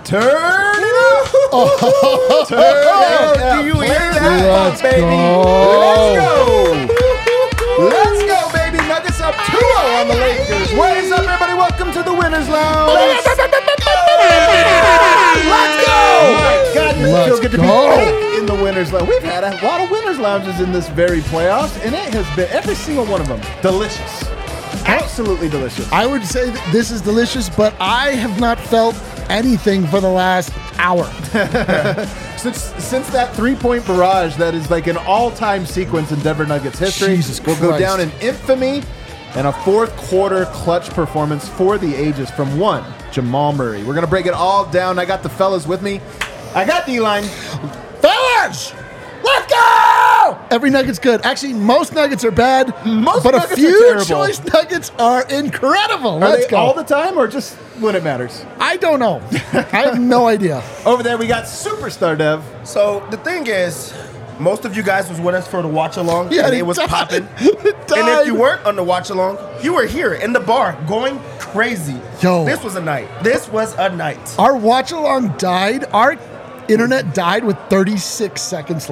Turn it up. Turn it up. Do you hear that? Let's baby. Let's go, baby. Nuggets up 2-0 on the Lakers. What is up, everybody? Welcome to the Winners Lounge. Let's go. Oh my God, it feels good to be back in the Winners Lounge. We've had a lot of Winners Lounges in this very playoffs, and it has been, every single one of them, delicious. Absolutely delicious. I would say that this is delicious, but I have not felt anything for the last hour. Since that three-point barrage that is like an all-time sequence in Denver Nuggets history, Jesus will go Christ. down in infamy and a fourth quarter clutch performance for the ages from one Jamal Murray. We're going to break it all down. I got the fellas with me. I got D-line. Fellas, let's go! Every Nugget's good. Actually, most Nuggets are bad, Most but Nuggets a are few terrible. choice Nuggets are incredible. Are Let's they go. all the time or just when it matters? I don't know. I have no idea. Over there, we got Superstar Dev. So the thing is, most of you guys was with us for the watch along, Yeah, and he it was died. popping. He And died. if you weren't on the watch along, you were here in the bar going crazy. Yo. This was a night. This was a night. Our watch along died. Our internet died with 36 seconds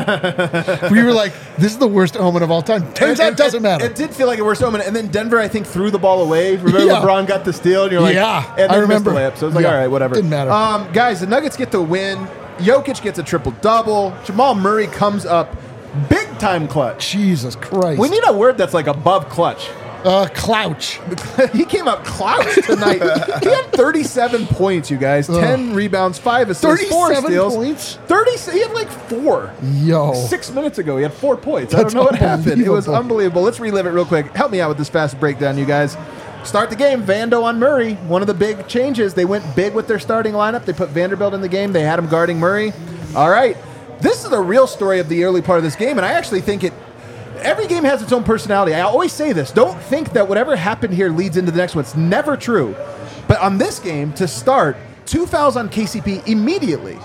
left. We were like, this is the worst omen of all time. Turns out it doesn't matter. It did feel like a worst omen. And then Denver, I think, threw the ball away. Remember Yeah. LeBron got the steal? And you're like, Yeah, and I then remember. missed the layup. So it was like, Yeah, all right, whatever. didn't matter. Guys, the Nuggets get the win. Jokic gets a triple-double. Jamal Murray comes up big-time clutch. Jesus Christ. We need a word that's like above clutch. Clouch. He came out clouched tonight. He had 37 points, you guys. 10 rebounds, 5 assists, 4 37 steals. points? 30. He had like 4. Yo. 6 minutes ago, he had 4 points. I That's don't know what happened. It was unbelievable. unbelievable. Let's relive it real quick. Help me out with this fast breakdown, you guys. Start the game. Vando on Murray. One of the big changes. They went big with their starting lineup. They put Vanderbilt in the game. They had him guarding Murray. All right. This is the real story of the early part of this game, and I actually think every game has its own personality. I always say this. Don't think that whatever happened here leads into the next one. It's never true. But on this game, to start, 2 fouls on KCP immediately.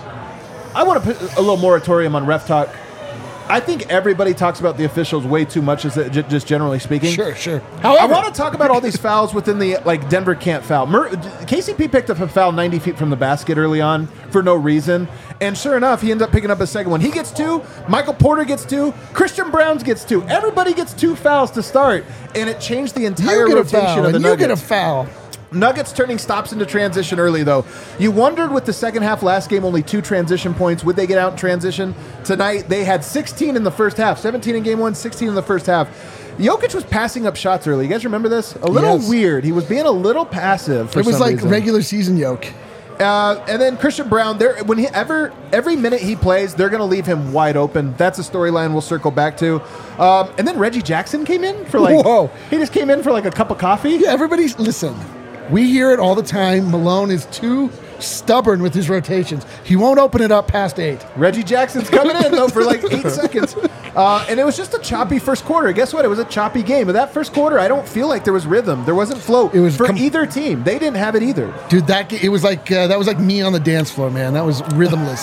I want to put a little moratorium on ref talk. I think everybody talks about the officials way too much, just generally speaking. Sure. I want to talk about all these fouls within the, like, Denver can't foul. KCP picked up a foul 90 feet from the basket early on for no reason. And sure enough, he ended up picking up a second one. He gets 2. Michael Porter gets 2. Christian Browns gets 2. Everybody gets 2 fouls to start. And it changed the entire You get a rotation foul, of the and you Nuggets. get a foul. Nuggets turning stops into transition early, though. You wondered with the second half last game, only 2 transition points. Would they get out in transition? Tonight, they had 16 in the first half. 17 in game 1, 16 in the first half. Jokic was passing up shots early. You guys remember this? A little Yes. weird. He was being a little passive for It was some like reason. regular season yoke. And then Christian Brown, every minute he plays, they're going to leave him wide open. That's a storyline we'll circle back to. And then Reggie Jackson came in for Whoa. he just came in for like a cup of coffee. Yeah, listen. We hear it all the time. Malone is too stubborn with his rotations. He won't open it up past 8. Reggie Jackson's coming in, though, for like 8 seconds. And it was just a choppy first quarter. Guess what? It was a choppy game. But that first quarter, I don't feel like there was rhythm. There wasn't flow. It was for either team. They didn't have it either. Dude, it was like that was like me on the dance floor, man. That was rhythmless.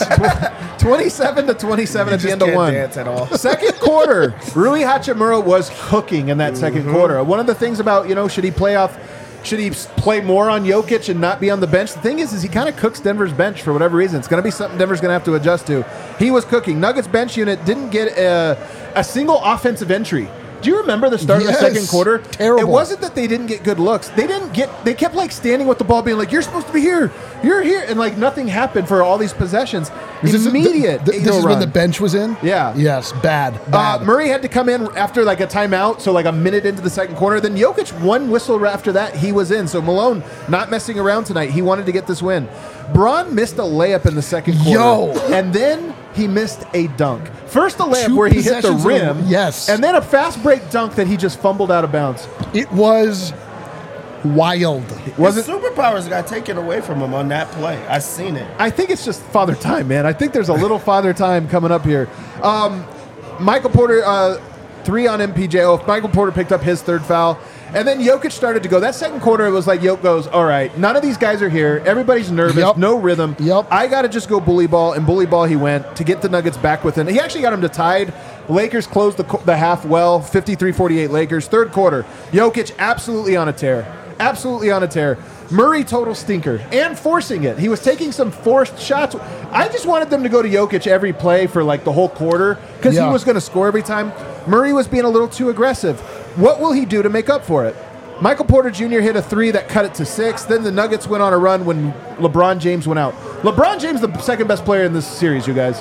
27-27 at the end of can't one. dance at all. Second quarter, Rui Hachimura was cooking in that second quarter. One of the things about, should he play more on Jokic and not be on the bench? The thing is he kind of cooks Denver's bench for whatever reason. It's going to be something Denver's going to have to adjust to. He was cooking. Nuggets bench unit didn't get a single offensive entry. Do you remember the start of the second quarter? Terrible. It wasn't that they didn't get good looks. They kept like standing with the ball being like, you're supposed to be here. You're here. And like nothing happened for all these possessions. Immediate. This is when the bench was in? Yeah. Yes, bad. Murray had to come in after like a timeout, so like a minute into the second quarter. Then Jokic, one whistle after that, he was in. So Malone not messing around tonight. He wanted to get this win. Braun missed a layup in the second quarter. And then he missed a dunk. First a layup 2 where he hit the possessions rim. yes. And then a fast break dunk that he just fumbled out of bounds. It was wild. Was His it? superpowers got taken away from him on that play. I seen it. I think it's just father time, man. I think there's a little father time coming up here. Michael Porter, 3 on MPJ. Oh, Michael Porter picked up his 3rd foul. And then Jokic started to go. That second quarter, it was like Jokic goes, all right, none of these guys are here. Everybody's nervous. Yep. No rhythm. Yep. I got to just go bully ball, and bully ball he went to get the Nuggets back within. He actually got them to tied. Lakers closed the half well, 53-48 Lakers. Third quarter, Jokic absolutely on a tear. Absolutely on a tear. Murray, total stinker, and forcing it. He was taking some forced shots. I just wanted them to go to Jokic every play for like the whole quarter because he was going to score every time. Murray was being a little too aggressive. What will he do to make up for it? Michael Porter Jr. hit a 3 that cut it to 6. Then the Nuggets went on a run when LeBron James went out. LeBron James, the second best player in this series, you guys.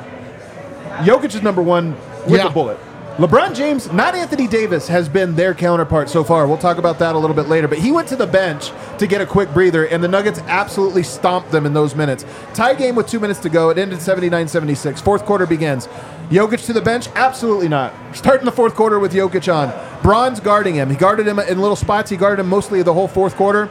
Jokic is number 1 with a bullet. LeBron James, not Anthony Davis, has been their counterpart so far. We'll talk about that a little bit later. But he went to the bench to get a quick breather, and the Nuggets absolutely stomped them in those minutes. Tie game with 2 minutes to go. It ended 79-76. Fourth quarter begins. Jokic to the bench? Absolutely not. Starting the fourth quarter with Jokic on. Bron's guarding him. He guarded him in little spots. He guarded him mostly the whole fourth quarter.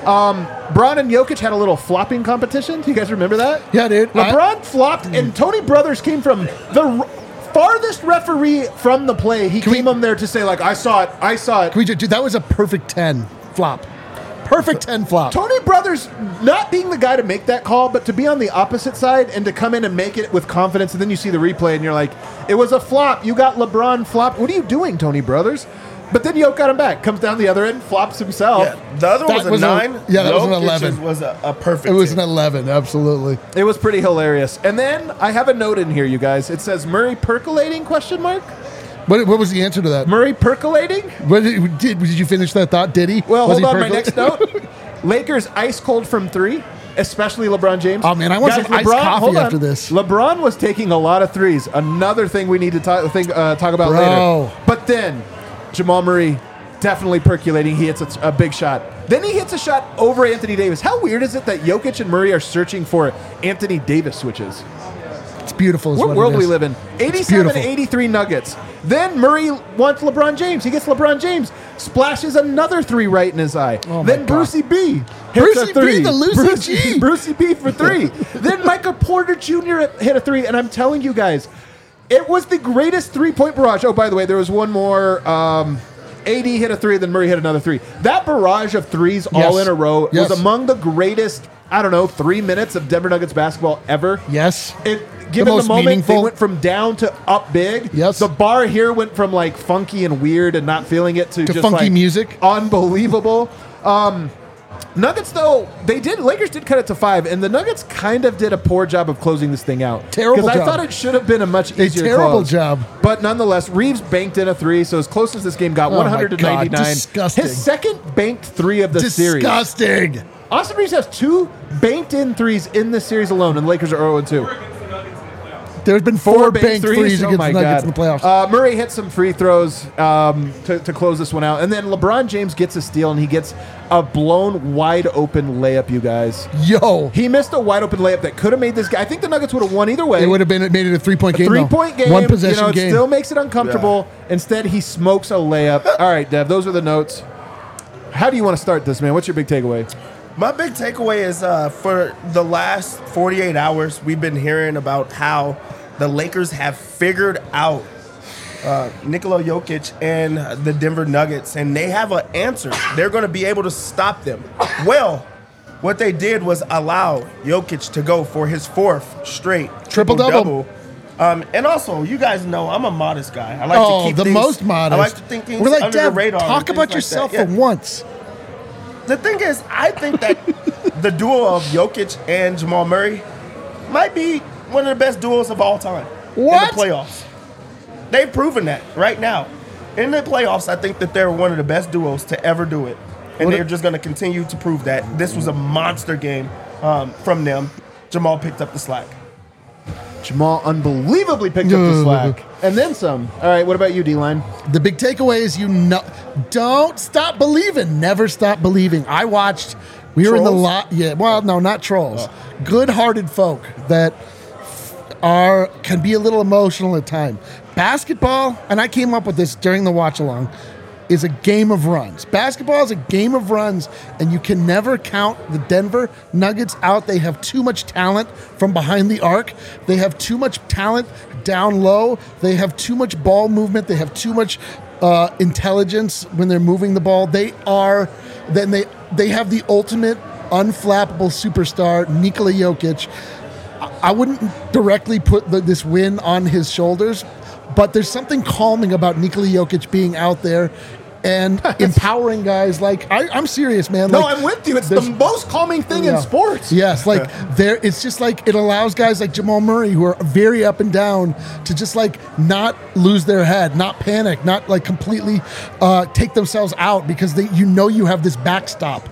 Bron and Jokic had a little flopping competition. Do you guys remember that? Yeah, dude. LeBron flopped, and Tony Brothers came from the farthest referee from the play. He came on there to say, like, I saw it. Dude, that was a perfect 10 flop. Perfect 10 flop. Tony Brothers not being the guy to make that call, but to be on the opposite side and to come in and make it with confidence, and then you see the replay and you're like, it was a flop. You got LeBron flopped. What are you doing, Tony Brothers? But then Jokic got him back. Comes down the other end, flops himself. Yeah, the other one was a 9. That was an 11. It was a perfect. It was 10. an 11, absolutely. It was pretty hilarious. And then I have a note in here, you guys. It says Murray percolating, question mark? What was the answer to that? Murray percolating? Did you finish that thought? Did he? Well, Was hold he on. My next note. Lakers ice cold from 3, especially LeBron James. Oh, man, I want some iced coffee after this. LeBron was taking a lot of threes. Another thing we need to talk about later. But then Jamal Murray definitely percolating. He hits a big shot. Then he hits a shot over Anthony Davis. How weird is it that Jokic and Murray are searching for Anthony Davis switches? It's beautiful. What world we live in? 87-83 Nuggets. Then Murray wants LeBron James. He gets LeBron James. Splashes another 3 right in his eye. Oh then Brucey B hits a 3. Brucey B for 3. Then Michael Porter Jr. hit a 3. And I'm telling you guys, it was the greatest 3-point barrage. Oh, by the way, there was one more. AD hit a 3, then Murray hit another 3. That barrage of threes all in a row was among the greatest, 3 minutes of Denver Nuggets basketball ever. Yes. Given the moment, they went from down to up big. Yes. The bar here went from like funky and weird and not feeling it to just funky like music. Unbelievable. Nuggets, though, Lakers did cut it to 5, and the Nuggets kind of did a poor job of closing this thing out. Terrible job. Because I thought it should have been a much easier terrible job. But nonetheless, Reeves banked in a 3, so as close as this game got, 100-99. Disgusting. His second banked 3 of the series. Disgusting. Austin Reeves has 2 banked in 3s in this series alone, and the Lakers are 0-2. There's been 4 banked threes against the Nuggets in the playoffs. Murray hit some free throws to close this one out. And then LeBron James gets a steal, and he gets a blown wide open layup, you guys. Yo. He missed a wide open layup that could have made this game. I think the Nuggets would have won either way. It would have made it a 3-point game. 3-point game. One possession it game. Still makes it uncomfortable. Yeah. Instead, he smokes a layup. All right, Dev, those are the notes. How do you want to start this, man? What's your big takeaway? My big takeaway is for the last 48 hours, we've been hearing about how the Lakers have figured out Nikola Jokic and the Denver Nuggets, and they have an answer. They're going to be able to stop them. Well, what they did was allow Jokic to go for his 4th straight triple-double. And also, you guys know I'm a modest guy. I like to keep the things, most modest. I like to think things We're like, under Dev, the radar. talk about yourself for once. The thing is, I think that the duo of Jokic and Jamal Murray might be one of the best duos of all time in the playoffs. They've proven that right now. In the playoffs, I think that they're one of the best duos to ever do it. And they're just going to continue to prove that. This was a monster game from them. Jamal picked up the slack. Jamal unbelievably picked up the slack. And then some. All right, what about you, D-Line? The big takeaway is don't stop believing. Never stop believing. I watched. We were in the lot. Yeah, well, no, not trolls. Good-hearted folk that can be a little emotional at times. Basketball, and I came up with this during the watch-along, is a game of runs. Basketball is a game of runs, and you can never count the Denver Nuggets out. They have too much talent from behind the arc. They have too much talent down low. They have too much ball movement. They have too much intelligence when they're moving the ball. They have the ultimate unflappable superstar, Nikola Jokic. I wouldn't directly put this win on his shoulders, but there's something calming about Nikola Jokic being out there and empowering guys. Like I'm serious, man. No, like, I'm with you. It's the most calming thing in sports. Yes, like it's just like it allows guys like Jamal Murray, who are very up and down, to just like not lose their head, not panic, not like completely take themselves out, because you have this backstop.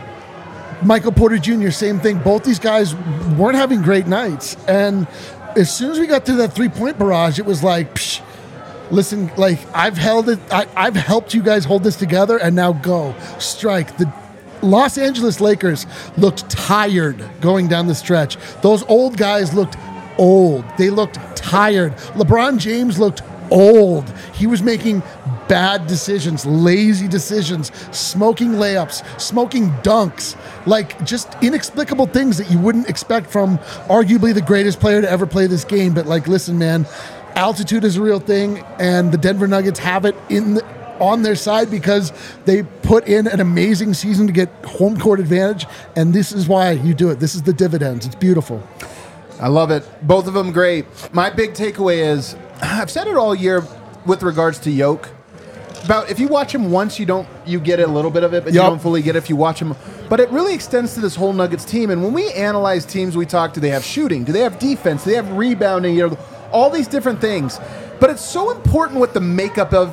Michael Porter Jr., same thing. Both these guys weren't having great nights, and as soon as we got to that 3-point barrage, it was like, psh, listen, like I've helped you guys hold this together, and now go strike. The Los Angeles Lakers looked tired going down the stretch. Those old guys looked old. They looked tired. LeBron James looked old. He was making bad decisions, lazy decisions, smoking layups, smoking dunks, like just inexplicable things that you wouldn't expect from arguably the greatest player to ever play this game. But like, listen, man, altitude is a real thing, and the Denver Nuggets have it on their side because they put in an amazing season to get home court advantage, and this is why you do it. This is the dividends. It's beautiful. I love it. Both of them great. My big takeaway is, I've said it all year with regards to Yoke, about if you watch him once, you get a little bit of it, but you don't fully get it if you watch him. But it really extends to this whole Nuggets team. And when we analyze teams, we talk, do they have shooting? Do they have defense? Do they have rebounding? All these different things. But it's so important what the makeup of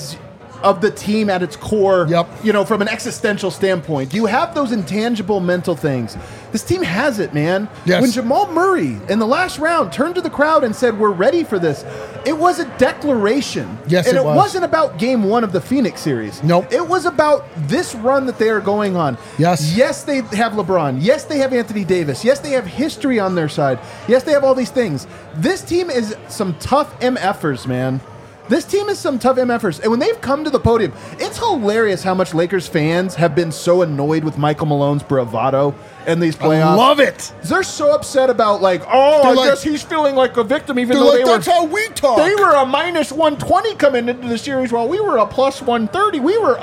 the team at its core, from an existential standpoint. Do you have those intangible mental things? This team has it, man. Yes. When Jamal Murray in the last round turned to the crowd and said, we're ready for this, it was a declaration. Yes, and it was. wasn't about game one of the Phoenix series. Nope. It was about this run that they are going on. Yes. Yes, they have LeBron. Yes, they have Anthony Davis. Yes, they have history on their side. Yes, they have all these things. This team is some tough MFers, man. This team is some tough MFers. And when they've come to the podium, it's hilarious how much Lakers fans have been so annoyed with Michael Malone's bravado in these playoffs. I love it. They're so upset about, I guess he's feeling like a victim, even though that's how we talk. They were a minus 120 coming into the series while we were a plus 130. We were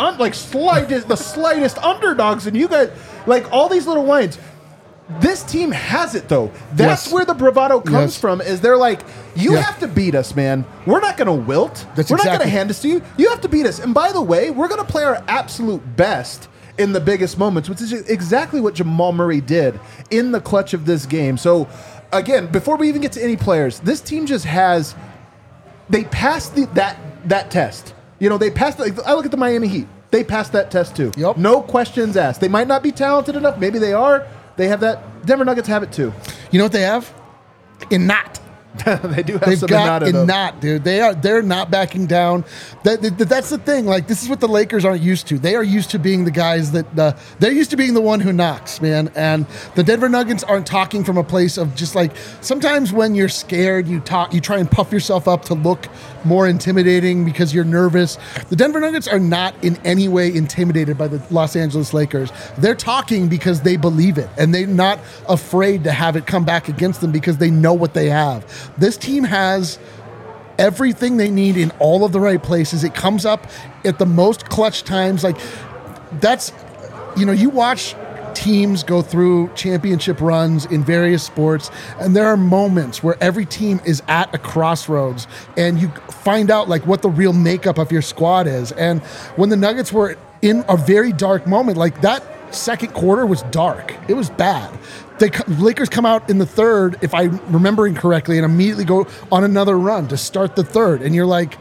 the slightest underdogs, and you guys, all these little whines. This team has it, though. That's where the bravado comes from, is they're like, you have to beat us, man. We're not going to wilt. We're not going to hand this to you. You have to beat us. And by the way, we're going to play our absolute best in the biggest moments, which is exactly what Jamal Murray did in the clutch of this game. So, again, before we even get to any players, this team just has, they passed that test. They passed, I look at the Miami Heat. They passed that test, too. Yep. No questions asked. They might not be talented enough. Maybe they are. They have that. Denver Nuggets have it too. You know what they have? Innot. They do have They've some got Innot, dude. They're not backing down. That's the thing. Like, this is what the Lakers aren't used to. They are used to being the guys that they're used to being the one who knocks, man. And the Denver Nuggets aren't talking from a place of just like, sometimes when you're scared, you try and puff yourself up to look more intimidating because you're nervous. The Denver Nuggets are not in any way intimidated by the Los Angeles Lakers. They're talking because they believe it, and they're not afraid to have it come back against them because they know what they have. This team has everything they need in all of the right places. It comes up at the most clutch times. Like, that's, you watch teams go through championship runs in various sports, and there are moments where every team is at a crossroads, and you find out what the real makeup of your squad is. And when the Nuggets were in a very dark moment, that second quarter was dark. It was bad. The Lakers come out in the third, if I'm remembering correctly, and immediately go on another run to start the third. And you're like,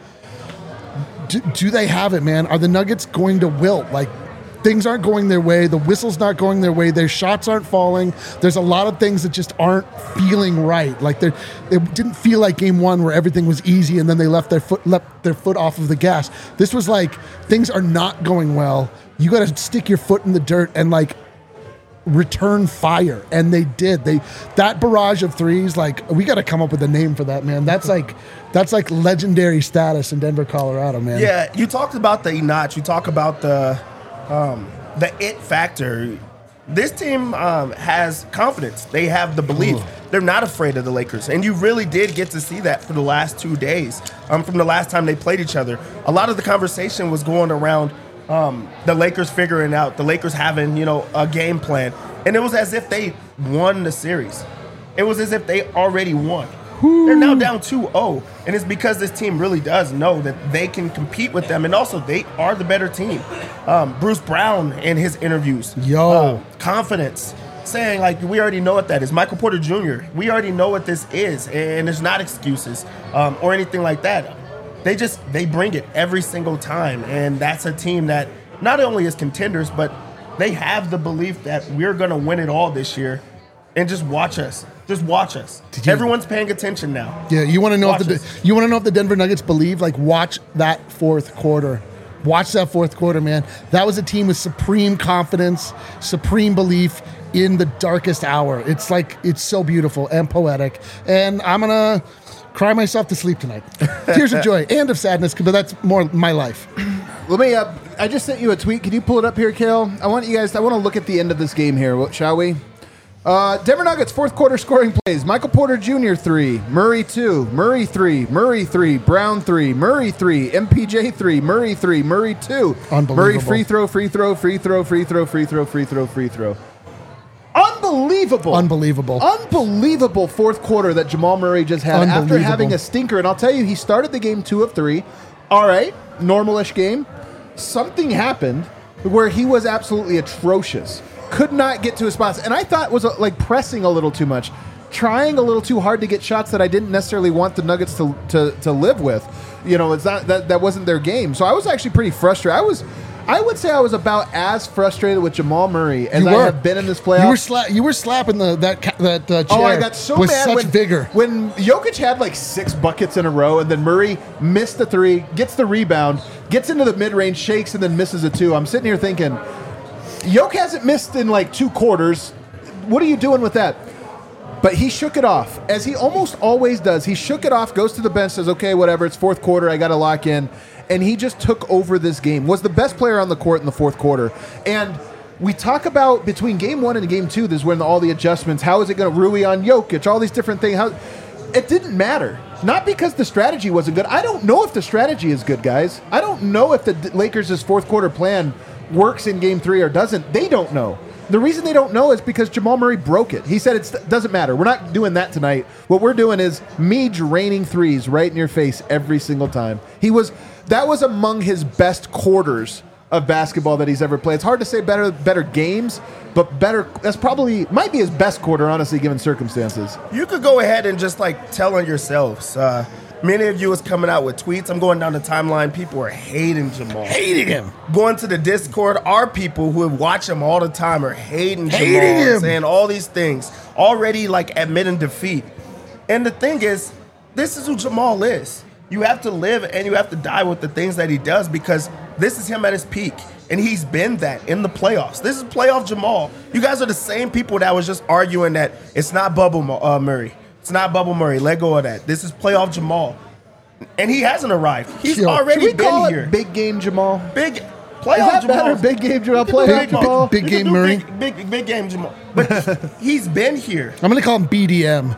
do they have it, man? Are the Nuggets going to wilt? Things aren't going their way. The whistle's not going their way. Their shots aren't falling. There's a lot of things that just aren't feeling right. It didn't feel like game one where everything was easy and then they left their foot off of the gas. This was things are not going well. You got to stick your foot in the dirt and return fire, and they did. That barrage of threes, we got to come up with a name for that, man. That's legendary status in Denver, Colorado, man. Yeah, you talked about the notch. You talk about the it factor. This team has confidence. They have the belief. They're not afraid of the Lakers, and you really did get to see that for the last 2 days. From the last time they played each other, a lot of the conversation was going around the Lakers figuring out, the Lakers having, a game plan. And it was as if they won the series. It was as if they already won. They're now down 2-0, and it's because this team really does know that they can compete with them, and also they are the better team. Bruce Brown in his interviews, confidence, saying like, we already know what that is. Michael Porter Jr., we already know what this is, and there's not excuses or anything like that. They bring it every single time, and that's a team that not only is contenders, but they have the belief that we're going to win it all this year. And just watch us. Just watch us. Everyone's paying attention now. Yeah, you want to know if the Denver Nuggets believe? Like, watch that fourth quarter. Watch that fourth quarter, man. That was a team with supreme confidence, supreme belief in the darkest hour. It's so beautiful and poetic. And I'm gonna cry myself to sleep tonight. Tears of joy and of sadness, but that's more my life. Let me. I just sent you a tweet. Can you pull it up here, Kale? I want to look at the end of this game here. Shall we? Denver Nuggets fourth quarter scoring plays. Michael Porter Jr. 3, Murray 2, Murray 3, Murray 3, Brown 3, Murray 3, MPJ 3, Murray 3, Murray 2. Unbelievable. Murray free throw, free throw, free throw, free throw, free throw, free throw, free throw. Unbelievable. Unbelievable fourth quarter that Jamal Murray just had after having a stinker. And I'll tell you, he started the game 2 of 3. All right, normal-ish game. Something happened where he was absolutely atrocious. Could not get to his spots. And I thought was like pressing a little too much, trying a little too hard to get shots that I didn't necessarily want the Nuggets to live with. You know, it's not that wasn't their game. So I was actually pretty frustrated. I would say I was about as frustrated with Jamal Murray as I have been in this playoff. You were slapping that chair. Oh, I got so with mad such vigor when Jokic had like 6 buckets in a row, and then Murray missed the 3, gets the rebound, gets into the mid-range, shakes, and then misses a 2. I'm sitting here thinking, Jokic hasn't missed in like 2 quarters. What are you doing with that? But he shook it off, as he almost always does. He shook it off, goes to the bench, says, okay, whatever, it's fourth quarter, I got to lock in. And he just took over this game, was the best player on the court in the fourth quarter. And we talk about between game 1 and game 2, this is when all the adjustments, how is it going to Rui on Jokic, all these different things. It didn't matter. Not because the strategy wasn't good. I don't know if the strategy is good, guys. I don't know if the Lakers' fourth quarter plan works in game 3 or doesn't. They don't know. The reason they don't know is because Jamal Murray broke it. He said it doesn't matter. We're not doing that tonight. What we're doing is me draining threes right in your face every single time. That was among his best quarters of basketball that he's ever played. It's hard to say better games, but better. That's probably might be his best quarter, honestly, given circumstances. You could go ahead and just like tell on yourselves. Many of you was coming out with tweets. I'm going down the timeline. People are hating Jamal. Hating him. Going to the Discord, our people who watch him all the time are hating Jamal. Saying all these things. Already like admitting defeat. And the thing is, this is who Jamal is. You have to live and you have to die with the things that he does, because this is him at his peak. And he's been that in the playoffs. This is playoff Jamal. You guys are the same people that was just arguing that it's not Bubble Murray. It's not Bubble Murray. Let go of that. This is playoff Jamal. And he hasn't arrived. He's already been here. Big game Jamal. Big playoff Jamal. Big game Jamal. Playoff Jamal. Big game Murray. Big game Jamal. But he's been here. I'm going to call him BDM.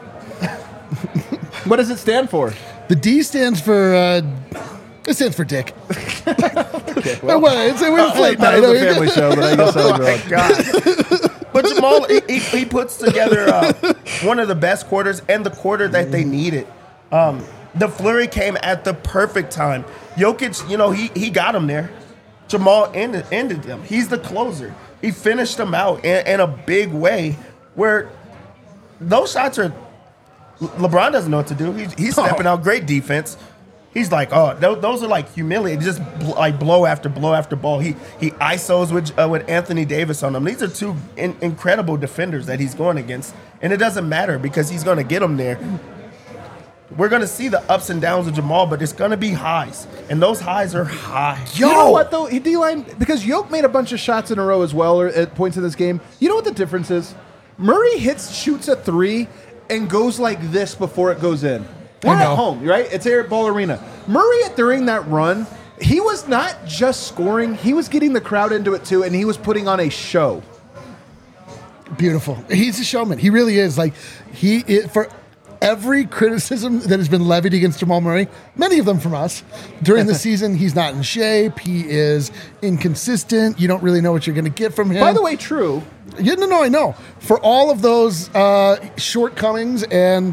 What does it stand for? The D stands for... it stands for dick. Okay, well, it's a family show, but I guess I was wrong. God. But Jamal, he puts together one of the best quarters and the quarter that they needed. The flurry came at the perfect time. Jokic, he got him there. Jamal ended them. He's the closer. He finished them out in a big way where those shots are... LeBron doesn't know what to do. He's stepping out. Great defense. He's like, those are like humiliating. Just like blow after blow after ball. He ISOs with Anthony Davis on them. These are 2 incredible defenders that he's going against, and it doesn't matter because he's going to get them there. We're going to see the ups and downs of Jamal, but it's going to be highs, and those highs are high. You know what though, D-line, because Jokic made a bunch of shots in a row as well at points in this game. You know what the difference is? Murray shoots a 3 and goes like this before it goes in. We're at home, right? It's Air Ball Arena. Murray, during that run, he was not just scoring. He was getting the crowd into it, too, and he was putting on a show. Beautiful. He's a showman. He really is. Like, for every criticism that has been levied against Jamal Murray, many of them from us, during the season, he's not in shape. He is inconsistent. You don't really know what you're going to get from him. By the way, true. No, I know. For all of those shortcomings and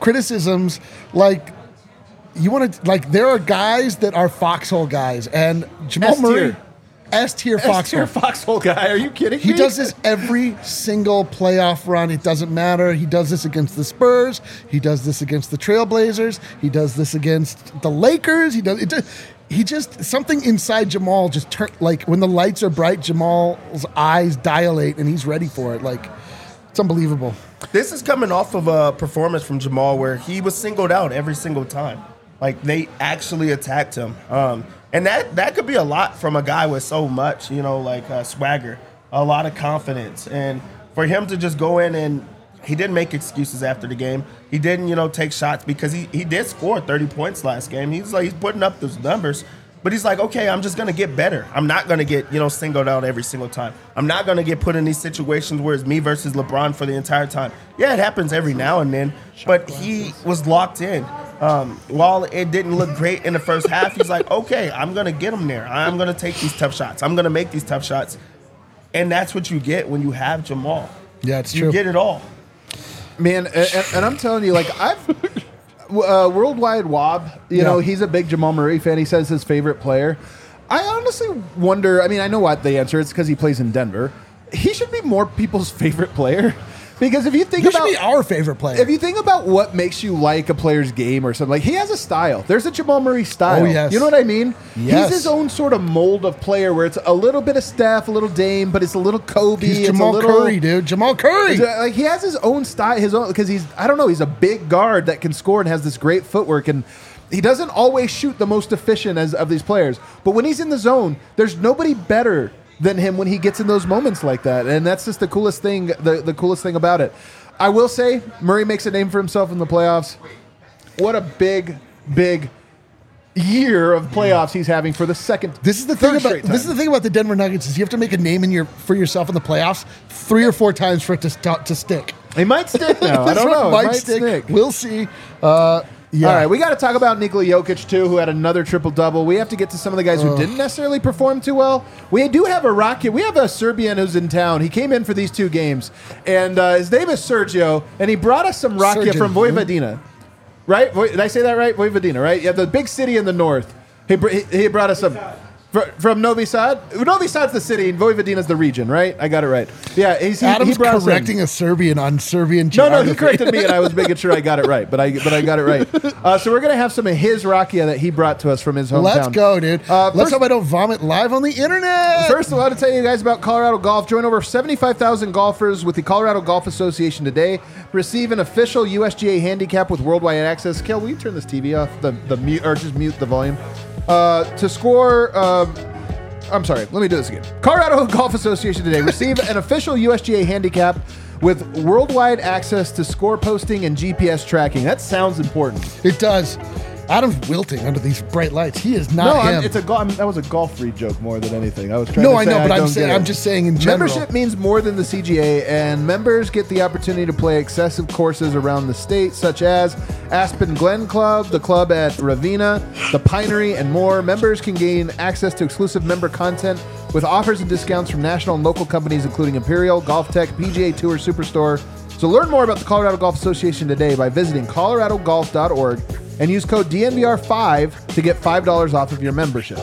criticisms like you want to like there are guys that are foxhole guys, and Jamal Murray. S-tier foxhole. Foxhole guy. Are you kidding me? He does this every single playoff run. It doesn't matter. He does this against the Spurs. He does this against the Trailblazers. He does this against the Lakers. He just something inside Jamal just turn like when the lights are bright, Jamal's eyes dilate and he's ready for it. Like it's unbelievable. This is coming off of a performance from Jamal where he was singled out every single time. Like they actually attacked him. And that could be a lot from a guy with so much, like swagger, a lot of confidence. And for him to just go in and he didn't make excuses after the game. He didn't, take shots because he did score 30 points last game. He's putting up those numbers. But he's like, okay, I'm just going to get better. I'm not going to get, singled out every single time. I'm not going to get put in these situations where it's me versus LeBron for the entire time. Yeah, it happens every now and then. But he was locked in. While it didn't look great in the first half, he's like, okay, I'm going to get him there. I'm going to take these tough shots. I'm going to make these tough shots. And that's what you get when you have Jamal. Yeah, it's true. You get it all. Man, and I'm telling you, like, Worldwide Wob, he's a big Jamal Murray fan. He says his favorite player. I honestly wonder, I know what the answer is because he plays in Denver. He should be more people's favorite player. Because if you think about... He should be our favorite player. If you think about what makes you like a player's game or something, like he has a style. There's a Jamal Murray style. Oh, yes. You know what I mean? Yes. He's his own sort of mold of player where it's a little bit of Steph, a little Dame, but it's a little Kobe. He's Jamal Curry, dude. Jamal Curry. Like he has his own style, because he's a big guard that can score and has this great footwork, and he doesn't always shoot the most efficient of these players. But when he's in the zone, there's nobody better than him when he gets in those moments like that. And that's just the coolest thing, the coolest thing about it. I will say, Murray makes a name for himself in the playoffs. What a big, big year of playoffs he's having for the second. This is the thing about the Denver Nuggets is you have to make a name for yourself in the playoffs 3 or 4 times for it to stick. It might stick now. I don't know. It might stick. We'll see. Yeah. All right, we got to talk about Nikola Jokic, too, who had another triple-double. We have to get to some of the guys who didn't necessarily perform too well. We do have a Rocket. We have a Serbian who's in town. He came in for these 2 games, and his name is Sergio, and he brought us some Rocket from Vojvodina. Right? Did I say that right? Vojvodina, right? Yeah, the big city in the north. He brought us some... From Novi Sad? Novi Sad's the city, and Vojvodina's the region, right? I got it right. Yeah, Adam's correcting a Serbian on Serbian geography. No, he corrected me, and I was making sure I got it right, but I got it right. So we're going to have some of his Rakia that he brought to us from his hometown. Let's go, dude. Let's hope I don't vomit live on the internet. First, I want to tell you guys about Colorado Golf. Join over 75,000 golfers with the Colorado Golf Association today. Receive an official USGA handicap with worldwide access. Kel, will you turn this TV off? The mute, or just mute the volume. To score, I'm sorry, let me do this again. Colorado Golf Association today. Receive an official USGA handicap with worldwide access to score posting and GPS tracking. That sounds important. It does. Adam's wilting under these bright lights. He is not him. That was a golf free joke more than anything. I was trying. No, I know, but I'm just saying in general. Membership means more than the CGA, and members get the opportunity to play excessive courses around the state, such as Aspen Glen Club, the club at Ravenna, the Pinery, and more. Members can gain access to exclusive member content with offers and discounts from national and local companies, including Imperial, Golf Tech, PGA Tour, Superstore. So learn more about the Colorado Golf Association today by visiting coloradogolf.org and use code DNVR5 to get $5 off of your membership.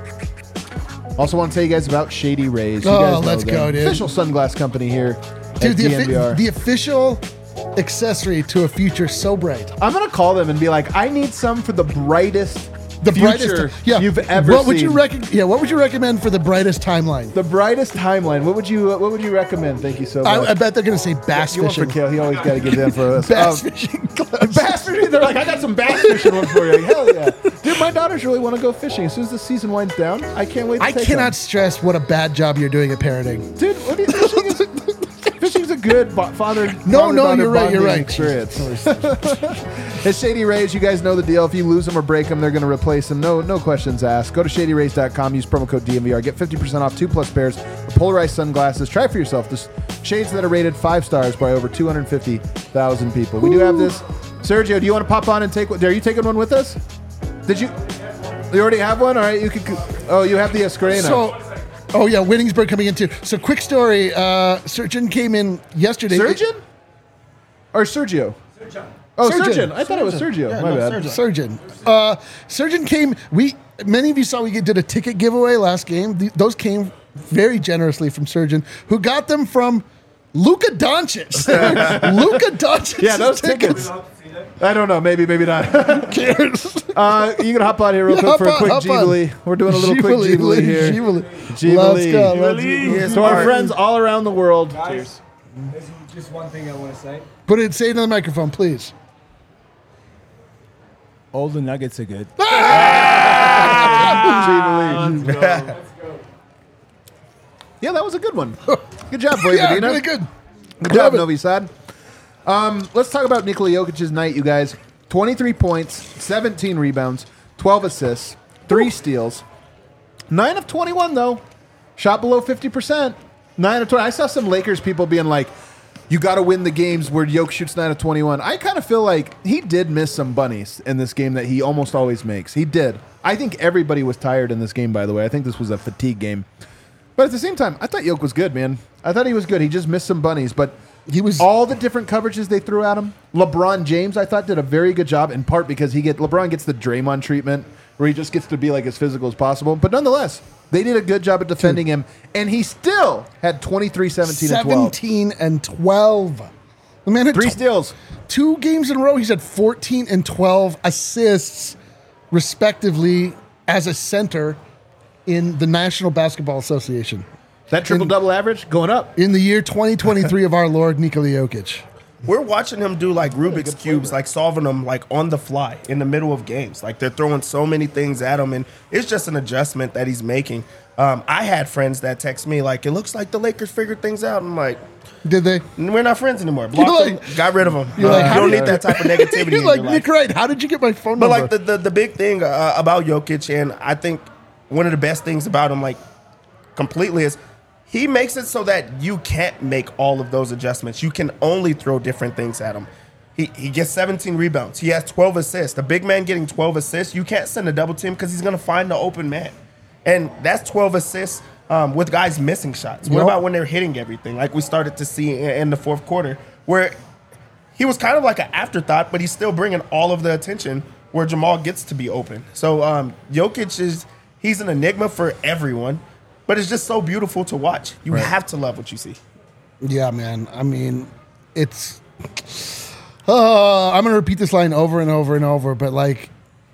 Also want to tell you guys about Shady Rays. Let's go, dude. Official sunglass company here dude, at DNVR. The official accessory to a future so bright. I'm going to call them and be like, I need some for the brightest future you've ever seen. What would you recommend for the brightest timeline? The brightest timeline. What would you recommend? Thank you so much. I bet they're going to say bass fishing. fishing. For Kale. He always got to give them for us. Bass fishing gloves. Bass fishing. They're like, I got some bass fishing ones for you. Hell yeah. Dude, my daughters really want to go fishing. As soon as the season winds down, I can't wait to take them. I cannot stress what a bad job you're doing at parenting. Dude, what are you fishing's a good father. No, you're right. Experience. It's Shady Rays. You guys know the deal. If you lose them or break them, they're going to replace them. No questions asked. Go to shadyrays.com. Use promo code DNVR. Get 50% off 2+ pairs of polarized sunglasses. Try for yourself. This shades that are rated 5 stars by over 250,000 people. We do have this. Sergio, do you want to pop on and take one? Are you taking one with us? Did you? You already have one? All right. You can. Oh, you have the Escarena. Oh, yeah, Winningsburg coming in too. So, quick story. Surgeon came in yesterday. Surgeon? Or Sergio? Oh, Surgeon. I thought it was Sergio. Yeah, My no, bad. Surgeon. Surgeon came. Many of you saw we did a ticket giveaway last game. Those came very generously from Surgeon, who got them from Luka Doncic. Luka Doncic. Yeah, those tickets. I don't know. Maybe not. Who cares? You can hop on here real quick for a quick Jubilee. We're doing a little quick Jubilee here. Jubilee. Let's go. Yes, To our friends all around the world. Guys, there's just one thing I want to say. Say it in the microphone, please. All the Nuggets are good. Jubilee. Yeah, that was a good one. Good job, Boy Yeah, Medina. really good. Good job, Love it. Novi Sad. Let's talk about Nikola Jokic's night, you guys. 23 points, 17 rebounds, 12 assists, 3 steals. 9 of 21, though. Shot below 50%. 9 of 20. I saw some Lakers people being like, you got to win the games where Jokic shoots 9 of 21. I kind of feel like he did miss some bunnies in this game that he almost always makes. He did. I think everybody was tired in this game, by the way. I think this was a fatigue game. But at the same time, I thought Jokic was good, man. I thought he was good. He just missed some bunnies, but He was all the different coverages they threw at him. LeBron James, I thought, did a very good job, in part because LeBron gets the Draymond treatment, where he just gets to be like as physical as possible. But nonetheless, they did a good job at defending him, and he still had 23, 17, and 12. 17 and 12. The man had 3 steals. 2 games in a row. He's had 14 and 12 assists, respectively, as a center in the National Basketball Association. That triple-double average going up. In the year 2023 of our Lord, Nikola Jokic. We're watching him do like Rubik's Cubes, like solving them like on the fly in the middle of games. Like they're throwing so many things at him, and it's just an adjustment that he's making. I had friends that text me like, it looks like the Lakers figured things out. I'm like, Did they? we're not friends anymore. Blocked them, got rid of them. You're like, you how don't did- need that type of negativity You're in like, your life. Nick Wright, how did you get my phone But number? like the big thing about Jokic, and I think one of the best things about him, like completely, is he makes it so that you can't make all of those adjustments. You can only throw different things at him. He gets 17 rebounds. He has 12 assists. The big man getting 12 assists, you can't send a double team because he's going to find the open man. And that's 12 assists with guys missing shots. What Yep. about when they're hitting everything, like we started to see in the fourth quarter, where he was kind of like an afterthought, but he's still bringing all of the attention where Jamal gets to be open. So Jokic he's an enigma for everyone, but it's just so beautiful to watch. You have to love what you see. Yeah, man. I mean, it's. I'm going to repeat this line over and over and over, but like,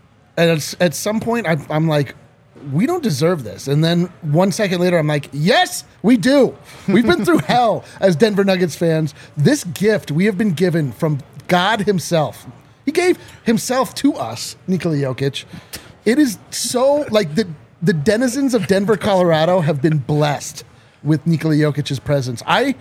at some point, I'm like, we don't deserve this. And then 1 second later, I'm like, yes, we do. We've been through hell as Denver Nuggets fans. This gift we have been given from God himself. He gave himself to us, Nikola Jokic. It is so, like, the denizens of Denver, Colorado have been blessed with Nikola Jokic's presence. I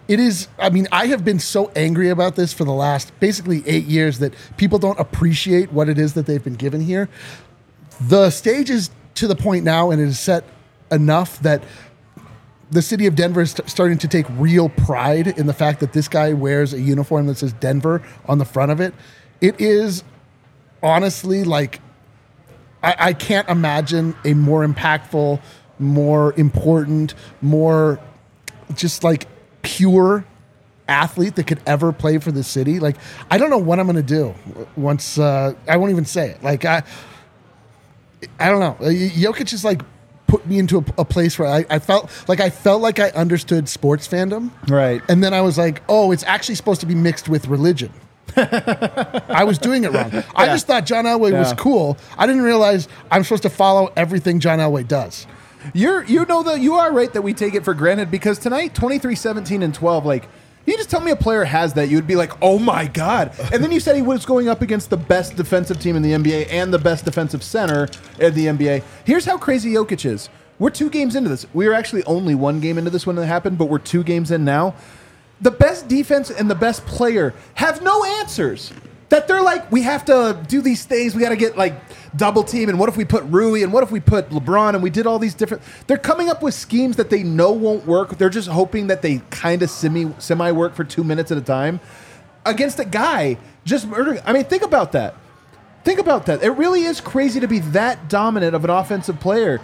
have been so angry about this for the last basically 8 years that people don't appreciate what it is that they've been given here. The stage is to the point now, and it is set enough that the city of Denver is starting to take real pride in the fact that this guy wears a uniform that says Denver on the front of it. It is honestly like, I can't imagine a more impactful, more important, more just like pure athlete that could ever play for the city. Like, I don't know what I'm going to do once, I won't even say it. Like, I don't know. Jokic is like put me into a place where I felt like I understood sports fandom. Right. And then I was like, oh, it's actually supposed to be mixed with religion. I was doing it wrong. I just thought John Elway was cool. I didn't realize I'm supposed to follow everything John Elway does. You are right that we take it for granted, because tonight, 23, 17, and 12, like, you just tell me a player has that, you would be like, oh my God. And then you said he was going up against the best defensive team in the NBA and the best defensive center in the NBA. Here's how crazy Jokic is. We're 2 games into this. We were actually only 1 game into this when it happened, but we're 2 games in now. The best defense and the best player have no answers. That they're like, we have to do these things. We got to get like double team. And what if we put Rui? And what if we put LeBron? And we did all these different. They're coming up with schemes that they know won't work. They're just hoping that they kind of semi work for 2 minutes at a time against a guy just murdering. I mean, think about that. Think about that. It really is crazy to be that dominant of an offensive player.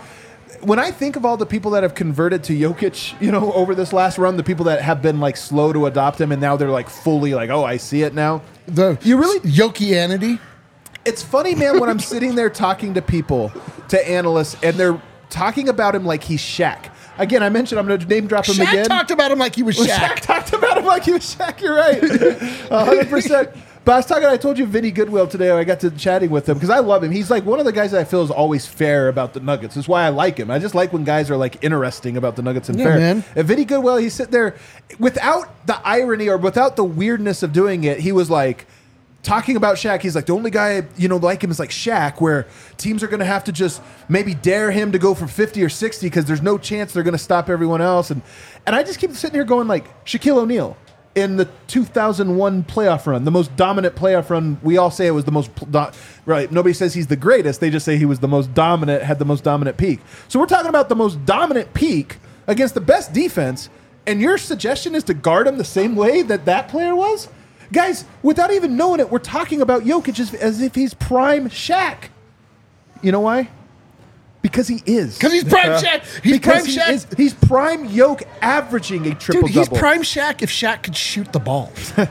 when I think of all the people that have converted to Jokic, over this last run, the people that have been like slow to adopt him and now they're like fully like, oh, I see it now. You really Yokianity? It's funny, man, when I'm sitting there talking to people, to analysts, and they're talking about him like he's Shaq. Again, I mentioned I'm going to name drop him Shaq again. talked about him like he was Shaq. Shaq talked about him like he was Shaq. You're right, 100%. But I told you Vinny Goodwill today. I got to chatting with him because I love him. He's like one of the guys that I feel is always fair about the Nuggets. That's why I like him. I just like when guys are like interesting about the Nuggets and fair. Man. And Vinny Goodwill, he's sitting there without the irony or without the weirdness of doing it. He was like talking about Shaq. He's like, the only guy like him is like Shaq, where teams are going to have to just maybe dare him to go for 50 or 60 because there's no chance they're going to stop everyone else. And I just keep sitting here going like Shaquille O'Neal. In the 2001 playoff run, the most dominant playoff run, we all say it was the most right. Nobody says he's the greatest. They just say he was the most dominant, had the most dominant peak. So we're talking about the most dominant peak against the best defense, and your suggestion is to guard him the same way that player was? Guys, without even knowing it, we're talking about Jokic as if he's prime Shaq. You know why? Because he is. Because he's prime Shaq. He's prime Shaq. He's prime Yoke averaging a triple-double. Dude, he's prime Shaq if Shaq could shoot the ball.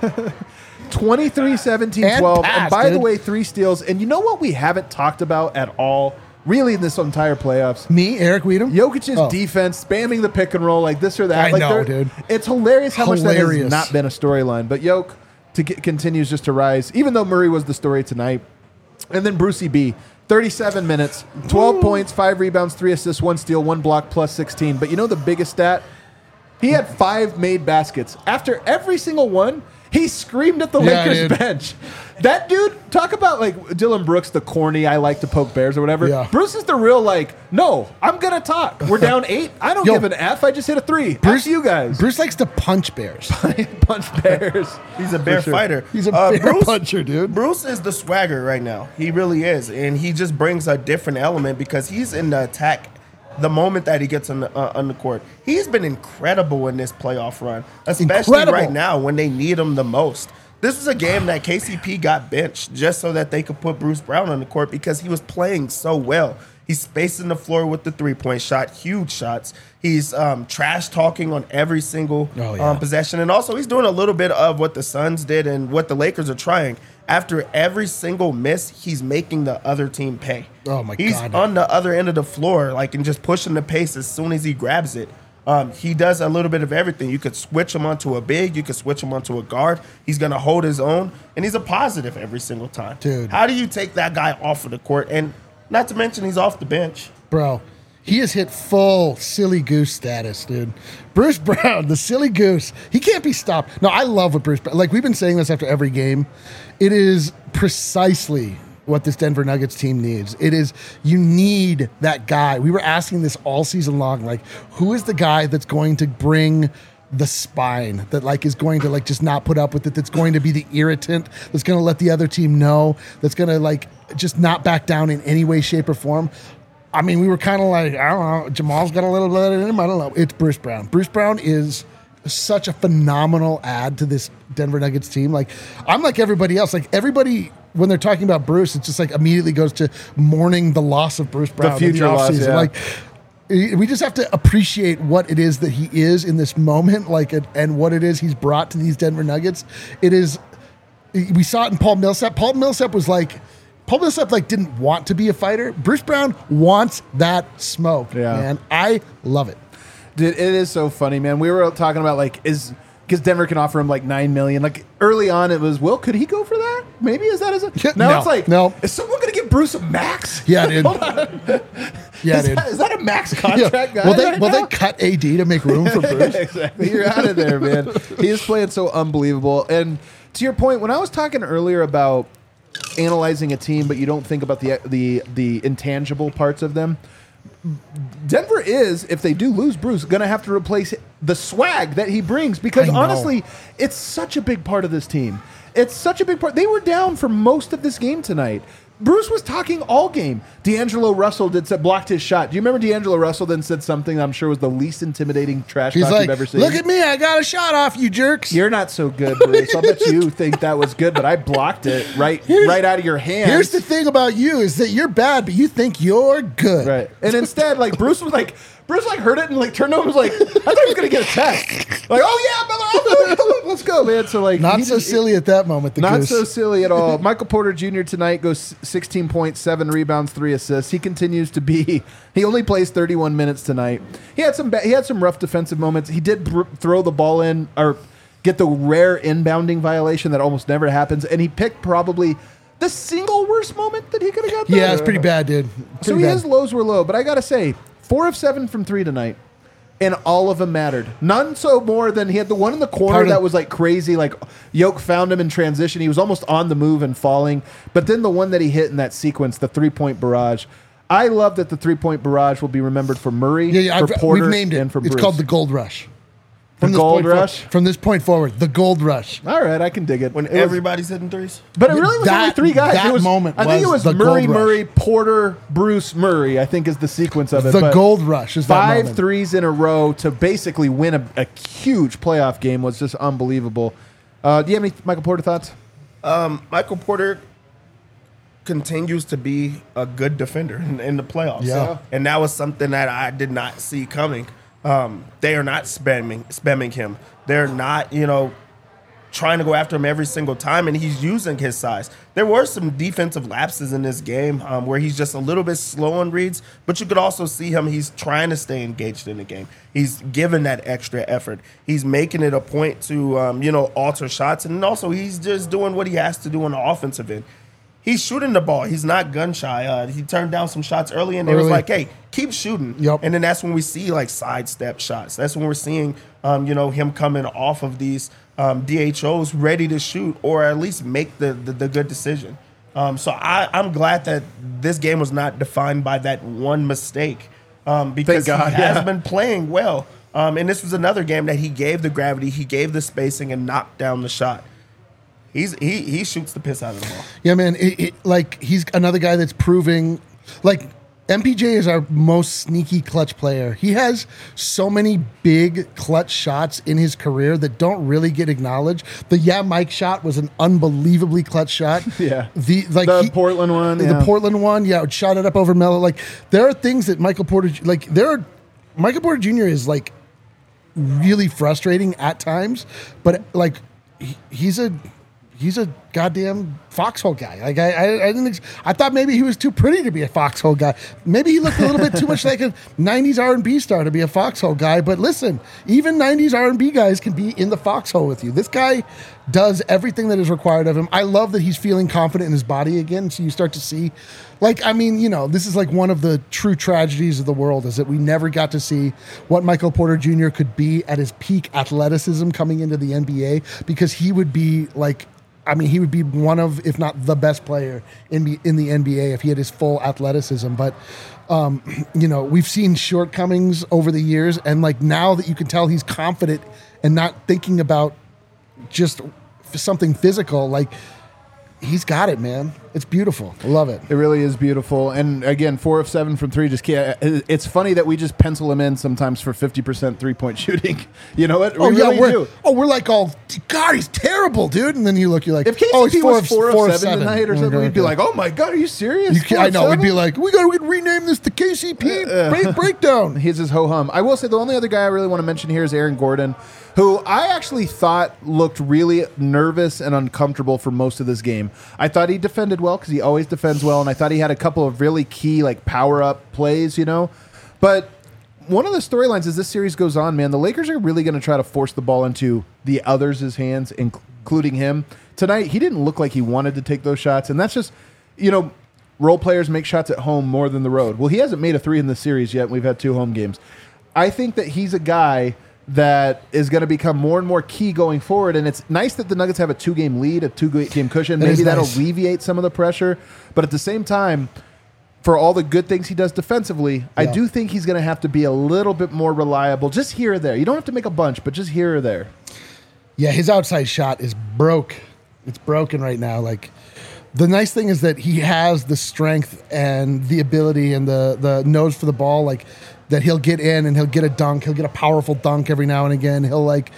23, 17, And 12. pass, And by the dude. way, 3 steals. And you know what we haven't talked about at all, really, in this entire playoffs? Me, Eric Weedham? Jokic's defense, spamming the pick and roll like this or that. I like know, dude. It's hilarious how much that Hilarious. has not been a storyline. But Yoke continues just to rise, even though Murray was the story tonight. And then Brucey B. 37 minutes, 12 points, 5 rebounds, 3 assists, 1 steal, 1 block, plus 16. But you know the biggest stat? He had 5 made baskets. After every single one, he screamed at the Lakers bench. That dude, talk about like Dylan Brooks, the corny, I like to poke bears or whatever. Yeah. Bruce is the real like, no, I'm going to talk. We're down 8. I don't give an F. I just hit a 3. Bruce, you guys. Bruce likes to punch bears. Punch bears. He's a bear fighter. He's a bear puncher, dude. Bruce is the swagger right now. He really is. And he just brings a different element because he's in the attack the moment that he gets on the court. He's been incredible in this playoff run, especially right now when they need him the most. This is a game that KCP got benched just so that they could put Bruce Brown on the court because he was playing so well. He's spacing the floor with the three-point shot, huge shots. He's trash talking on every single possession. And also he's doing a little bit of what the Suns did and what the Lakers are trying. After every single miss, he's making the other team pay. Oh, my God. He's on the other end of the floor, and just pushing the pace as soon as he grabs it. He does a little bit of everything. You could switch him onto a big. You could switch him onto a guard. He's going to hold his own, and he's a positive every single time. Dude. How do you take that guy off of the court? And not to mention he's off the bench. Bro, he has hit full silly goose status, dude. Bruce Brown, the silly goose. He can't be stopped. No, I love what Bruce Brown... Like, we've been saying this after every game. It is precisely what this Denver Nuggets team needs. It is, you need that guy. We were asking this all season long, like, who is the guy that's going to bring the spine, that like is going to like just not put up with it, that's going to be the irritant, that's going to let the other team know, that's going to like just not back down in any way, shape, or form. I mean, we were kind of like, I don't know, Jamal's got a little bit in him. I don't know. It's Bruce Brown. Bruce Brown is such a phenomenal add to this Denver Nuggets team. Like, I'm like everybody else. Like, everybody, when they're talking about Bruce, it just like immediately goes to mourning the loss of Bruce Brown. The future loss, offseason. yeah. Like, we just have to appreciate what it is that he is in this moment, like, and what it is he's brought to these Denver Nuggets. It is, we saw it in Paul Millsap. Paul Millsap didn't want to be a fighter. Bruce Brown wants that smoke, man. I love it. Dude, it is so funny, man. We were talking about like, because Denver can offer him like $9 million. Like early on, it was, Will, could he go for that? Maybe is that now no, it's like, no. Is someone going to give Bruce a max? Yeah, dude. Hold on. Yeah, Is that a max contract guy? Will they cut AD to make room for Bruce? Exactly. You're out of there, man. He is playing so unbelievable. And to your point, when I was talking earlier about analyzing a team, but you don't think about the intangible parts of them. Denver is, if they do lose Bruce, going to have to replace the swag that he brings because honestly, it's such a big part of this team. It's such a big part. They were down for most of this game tonight. Bruce was talking all game. D'Angelo Russell blocked his shot. Do you remember D'Angelo Russell then said something that I'm sure was the least intimidating trash He's talk like, you've ever seen? look at me, I got a shot off, you jerks. You're not so good, Bruce. I'll bet you think that was good, but I blocked it right out of your hands. Here's the thing about you is that you're bad, but you think you're good. Right. And instead, like, Bruce heard it and like turned over and was like, I thought he was going to get a text. Like, oh yeah, brother, let's go, man. So like, Not so silly at that moment, the not goose. so silly at all. Michael Porter Jr. tonight goes 16 points, 7 rebounds, 3 assists. He continues to be. He only plays 31 minutes tonight. He had some rough defensive moments. He did throw the ball in or get the rare inbounding violation that almost never happens, and he picked probably the single worst moment that he could have got there. Yeah, it's pretty bad, dude. So his lows were low, but I gotta say, 4 of 7 from 3 tonight. And all of them mattered. None so more than he had the one in the corner that was like crazy. Like Yoke found him in transition. He was almost on the move and falling. But then the one that he hit in that sequence, the 3-point barrage. I love that the 3-point barrage will be remembered for Murray, for Porter, we've named it. and for Bruce. It's called the Gold Rush. The Gold Rush? From this point forward, the Gold Rush. All right, I can dig it. When everybody's hitting threes. But it really was only 3 guys. That It was, moment I think it was was the Murray, Gold Rush. Murray, Porter, Bruce, Murray, I think is the sequence of it. The But Gold Rush is that 5 moment. threes in a row to basically win a huge playoff game was just unbelievable. Do you have any Michael Porter thoughts? Michael Porter continues to be a good defender in the playoffs. Yeah. And that was something that I did not see coming. They are not spamming him. They're not, trying to go after him every single time, and he's using his size. There were some defensive lapses in this game where he's just a little bit slow on reads, but you could also see him, he's trying to stay engaged in the game. He's given that extra effort. He's making it a point to, alter shots, and also he's just doing what he has to do on the offensive end. He's shooting the ball. He's not gun shy. He turned down some shots early, and it was like, hey, keep shooting. Yep. And then that's when we see, like, sidestep shots. That's when we're seeing, him coming off of these DHOs ready to shoot or at least make the good decision. So I'm glad that this game was not defined by that one mistake because he has been playing well. And this was another game that he gave the gravity, he gave the spacing, and knocked down the shot. He shoots the piss out of the ball. Yeah, man. He's another guy that's proving, like, MPJ is our most sneaky clutch player. He has so many big clutch shots in his career that don't really get acknowledged. The Mike shot was an unbelievably clutch shot. Yeah. The Portland one. The Portland one, shot it up over Melo. Like, there are things that Michael Porter Jr. is, like, really frustrating at times, but, like, he's a goddamn foxhole guy. Like I thought maybe he was too pretty to be a foxhole guy. Maybe he looked a little bit too much like a '90s R&B star to be a foxhole guy. But listen, even '90s R&B guys can be in the foxhole with you. This guy does everything that is required of him. I love that he's feeling confident in his body again. So you start to see, this is like one of the true tragedies of the world is that we never got to see what Michael Porter Jr. could be at his peak athleticism coming into the NBA, because he would be he would be one of, if not the best player in the NBA if he had his full athleticism. But, we've seen shortcomings over the years. And, like, now that you can tell he's confident and not thinking about just something physical, like, he's got it, man. It's beautiful. I love it. It really is beautiful. And again, 4 of 7 from 3. Just can't. It's funny that we just pencil him in sometimes for 50% 3-point shooting. You know what? We're like, God, he's terrible, dude. And then you're like, if KCP was 4 of 7 tonight or something, we'd be like, oh my God, are you serious? I know. We'd be like, we got to rename this the KCP breakdown. Here's his ho-hum. I will say the only other guy I really want to mention here is Aaron Gordon, who I actually thought looked really nervous and uncomfortable for most of this game. I thought he defended well because he always defends well, and I thought he had a couple of really key power-up plays, But one of the storylines as this series goes on, man, the Lakers are really going to try to force the ball into the others' hands, including him. Tonight, he didn't look like he wanted to take those shots, and that's just, role players make shots at home more than the road. Well, he hasn't made a 3 in this series yet, and we've had 2 home games. I think that he's a guy that is going to become more and more key going forward. And it's nice that the Nuggets have a 2-game lead, a 2-game cushion. Maybe that'll alleviate some of the pressure. But at the same time, for all the good things he does defensively, I do think he's going to have to be a little bit more reliable, just here or there. You don't have to make a bunch, but just here or there. Yeah, his outside shot is broke. It's broken right now. Like, The nice thing is that he has the strength and the ability and the nose for the ball, like that he'll get in and he'll get a dunk. He'll get a powerful dunk every now and again. He'll like,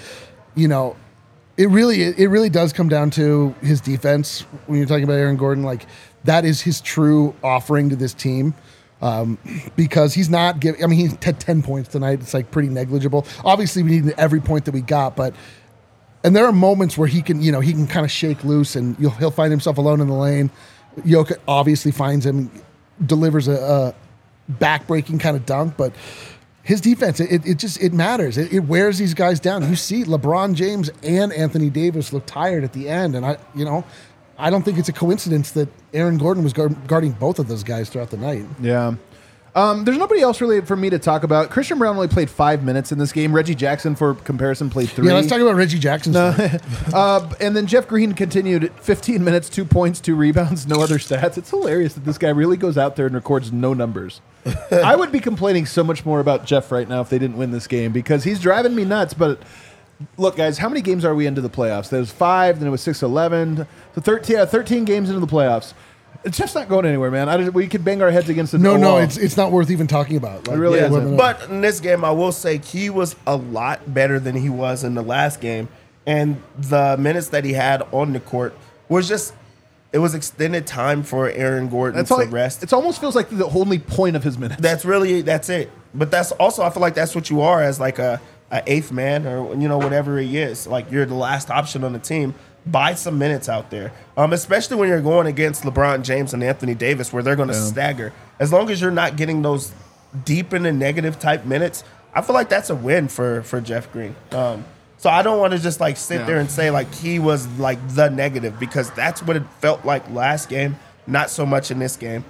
it really does come down to his defense. When you're talking about Aaron Gordon, like that is his true offering to this team. Because he's not giving, he had 10 points tonight. It's like pretty negligible. Obviously we need every point that we got, and there are moments where he can kind of shake loose and he'll find himself alone in the lane. Jokic obviously finds him, delivers a back-breaking kind of dunk, but his defense, it matters. It wears these guys down. You see LeBron James and Anthony Davis look tired at the end, and I don't think it's a coincidence that Aaron Gordon was guarding both of those guys throughout the night. Yeah. There's nobody else really for me to talk about. Christian Brown only played 5 minutes in this game. Reggie Jackson, for comparison, played 3. Yeah, let's talk about Reggie Jackson. And then Jeff Green continued 15 minutes, 2 points, 2 rebounds, no other stats. It's hilarious that this guy really goes out there and records no numbers. I would be complaining so much more about Jeff right now if they didn't win this game because he's driving me nuts. But look, guys, how many games are we into the playoffs? There was 5, then it was 6-11. So 13 games into the playoffs. It's just not going anywhere, man. We could bang our heads against the wall. No, it's not worth even talking about. It really isn't. But in this game, I will say he was a lot better than he was in the last game. And the minutes that he had on the court was just, it was extended time for Aaron Gordon to rest. It almost feels like the only point of his minutes. That's it. But that's also, I feel like that's what you are as like a eighth man or, whatever he is. Like you're the last option on the team. Buy some minutes out there, especially when you're going against LeBron James and Anthony Davis, where they're going to stagger. As long as you're not getting those deep in the negative type minutes, I feel like that's a win for Jeff Green. So I don't want to just like sit there and say like he was like the negative because that's what it felt like last game, not so much in this game.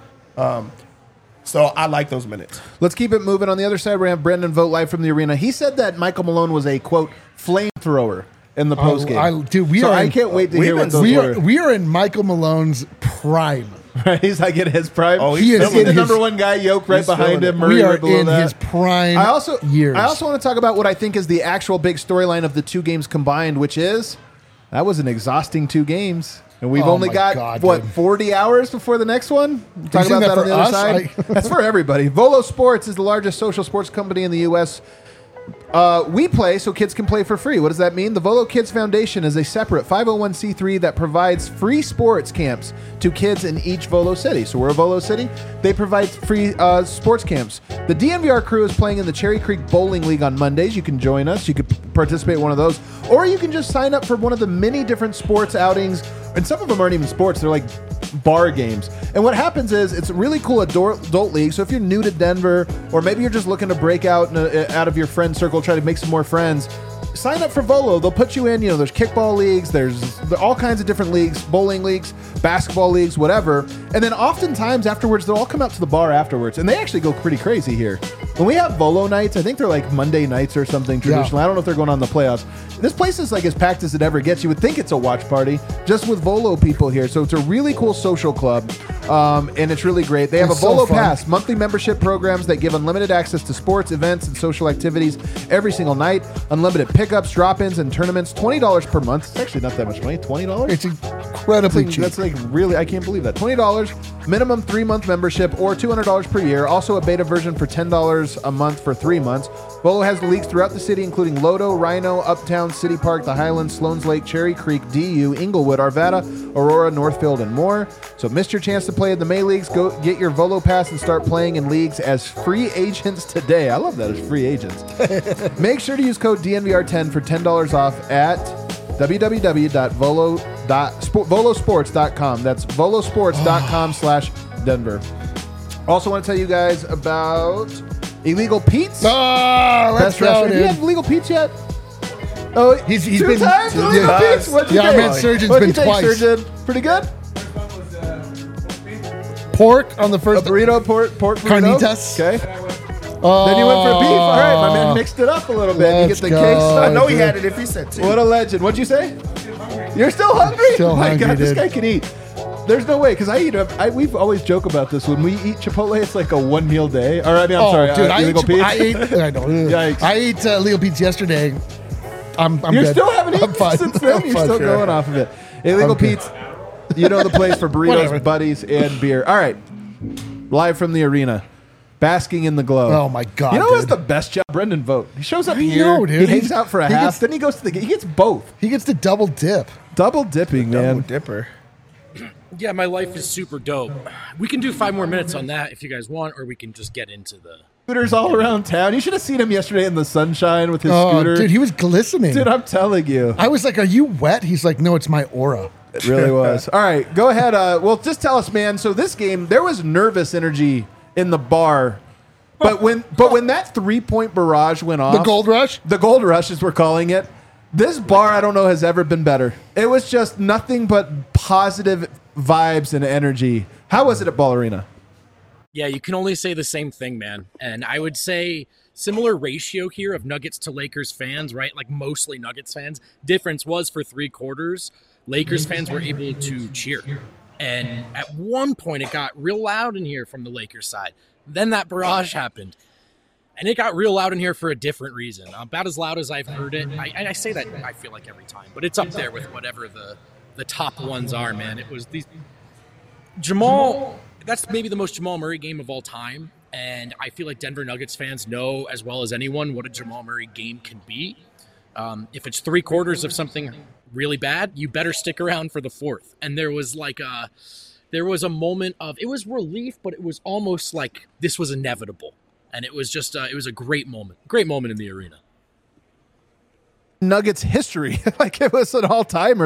So I like those minutes. Let's keep it moving. On the other side, we have Brendan Vogt live from the arena. He said that Michael Malone was a, quote, flamethrower in the postgame. I can't wait to hear what those were. We are in Michael Malone's prime. Right? He's like in his prime. Oh, he is the number one guy, Yoke right behind him. Murray we are right below in that. his prime years. I also want to talk about what I think is the actual big storyline of the 2 games combined, which is that was an exhausting 2 games. And we've only got, 40 hours before the next one? Talk about that on the other side. That's for everybody. Volo Sports is the largest social sports company in the U.S. We play so kids can play for free. What does that mean? The Volo Kids Foundation is a separate 501c3 that provides free sports camps to kids in each Volo city. So we're a Volo city. They provide free sports camps. The DNVR crew is playing in the Cherry Creek Bowling League on Mondays. You can join us. You could participate in one of those. Or you can just sign up for one of the many different sports outings. And some of them aren't even sports. They're like bar games. And what happens is it's a really cool adult league. So if you're new to Denver or maybe you're just looking to break out of your friend circle, try to make some more friends, sign up for Volo. They'll put you in, there's kickball leagues, there's all kinds of different leagues, bowling leagues, basketball leagues, whatever. And then oftentimes afterwards, they'll all come out to the bar afterwards. And they actually go pretty crazy here. When we have Volo nights, I think they're like Monday nights or something traditionally. I don't know if they're going on the playoffs. This place is like as packed as it ever gets. You would think it's a watch party just with Volo people here. So it's a really cool social club. And it's really great. They have a Volo Pass, monthly membership programs that give unlimited access to sports, events, and social activities every single night. Unlimited pickups, drop-ins, and tournaments. $20 per month. It's actually not that much money. $20? It's incredibly cheap. That's like really, I can't believe that. $20, minimum 3-month membership, or $200 per year. Also a beta version for $10 a month for 3 months. Volo has leagues throughout the city, including Lodo, Rhino, Uptown, City Park, the Highlands, Sloan's Lake, Cherry Creek, DU, Inglewood, Arvada, Aurora, Northfield, and more. So missed your chance to play in the May Leagues? Go get your Volo Pass and start playing in leagues as free agents today. I love that, as free agents. Make sure to use code DNVR10 for $10 off at www.volosports.com. That's volosports.com/Denver. Also want to tell you guys about Illegal Pete's. Let's go, dude. Do you have Illegal Pete's yet? Oh, he's 2 been times? Illegal Pete's? What'd you I think? meant Surgeon's What'd been you think, twice. Surgeon? Pretty good? Pork on the first. A burrito, pork burrito. Carnitas. Okay. Then you went for beef. All right, my man mixed it up a little bit. You get the Let's case. go. I know he had it if he said 2. What a legend. What'd you say? You're still hungry? Still My hungry, God, this dude. guy can eat. There's no way, because we've always joke about this. When we eat Chipotle, it's like a 1 meal day. Or, I'm sorry, dude, Illegal Pete's. I ate Yikes. I ate Illegal Pete's yesterday. I'm You good. still haven't I'm eaten fine. since then? I'm You're fine. still going off of it. Illegal I'm good. Pete's. You know the place for burritos, Whatever. buddies, and beer. All right. Live from the arena. Basking in the glow. Oh, my God, You know what's dude. the best job? Brendan Vogt. He shows up I here. know, dude. He hangs He's- out for a he half. gets- Then he goes to the game. He gets both. He gets to double dip. Double dipping, Double man. dipper. Yeah, my life is super dope. We can do 5 more minutes on that if you guys want, or we can just get into the. Scooters all around town. You should have seen him yesterday in the sunshine with his Oh, scooter. dude, he was glistening. Dude, I'm telling you. I was like, "Are you wet?" He's like, "No, it's my aura." It really was. All right, go ahead. Well, just tell us, man. So this game, there was nervous energy in the bar, but when that 3-point barrage went off, The gold rush. the gold rush as we're calling it, this bar I don't know has ever been better. It was just nothing but positive vibes and energy. How was it at Ball Arena? Yeah, you can only say the same thing, man. And I would say similar ratio here of Nuggets to Lakers fans, right? Like mostly Nuggets fans. Difference was for 3 quarters, Lakers fans were able to cheer. And at one point, it got real loud in here from the Lakers side. Then that barrage happened. And it got real loud in here for a different reason. About as loud as I've heard it. I say that, I feel like, every time. But it's up there with whatever the top ones are, man. It was these... Jamal, that's maybe the most Jamal Murray game of all time. And I feel like Denver Nuggets fans know as well as anyone what a Jamal Murray game can be. If it's 3 quarters of something really bad, you better stick around for the 4th. And there was a moment of, it was relief, but it was almost like this was inevitable. And it was just, it was a great moment in the arena. Nuggets history. Like it was an all-timer.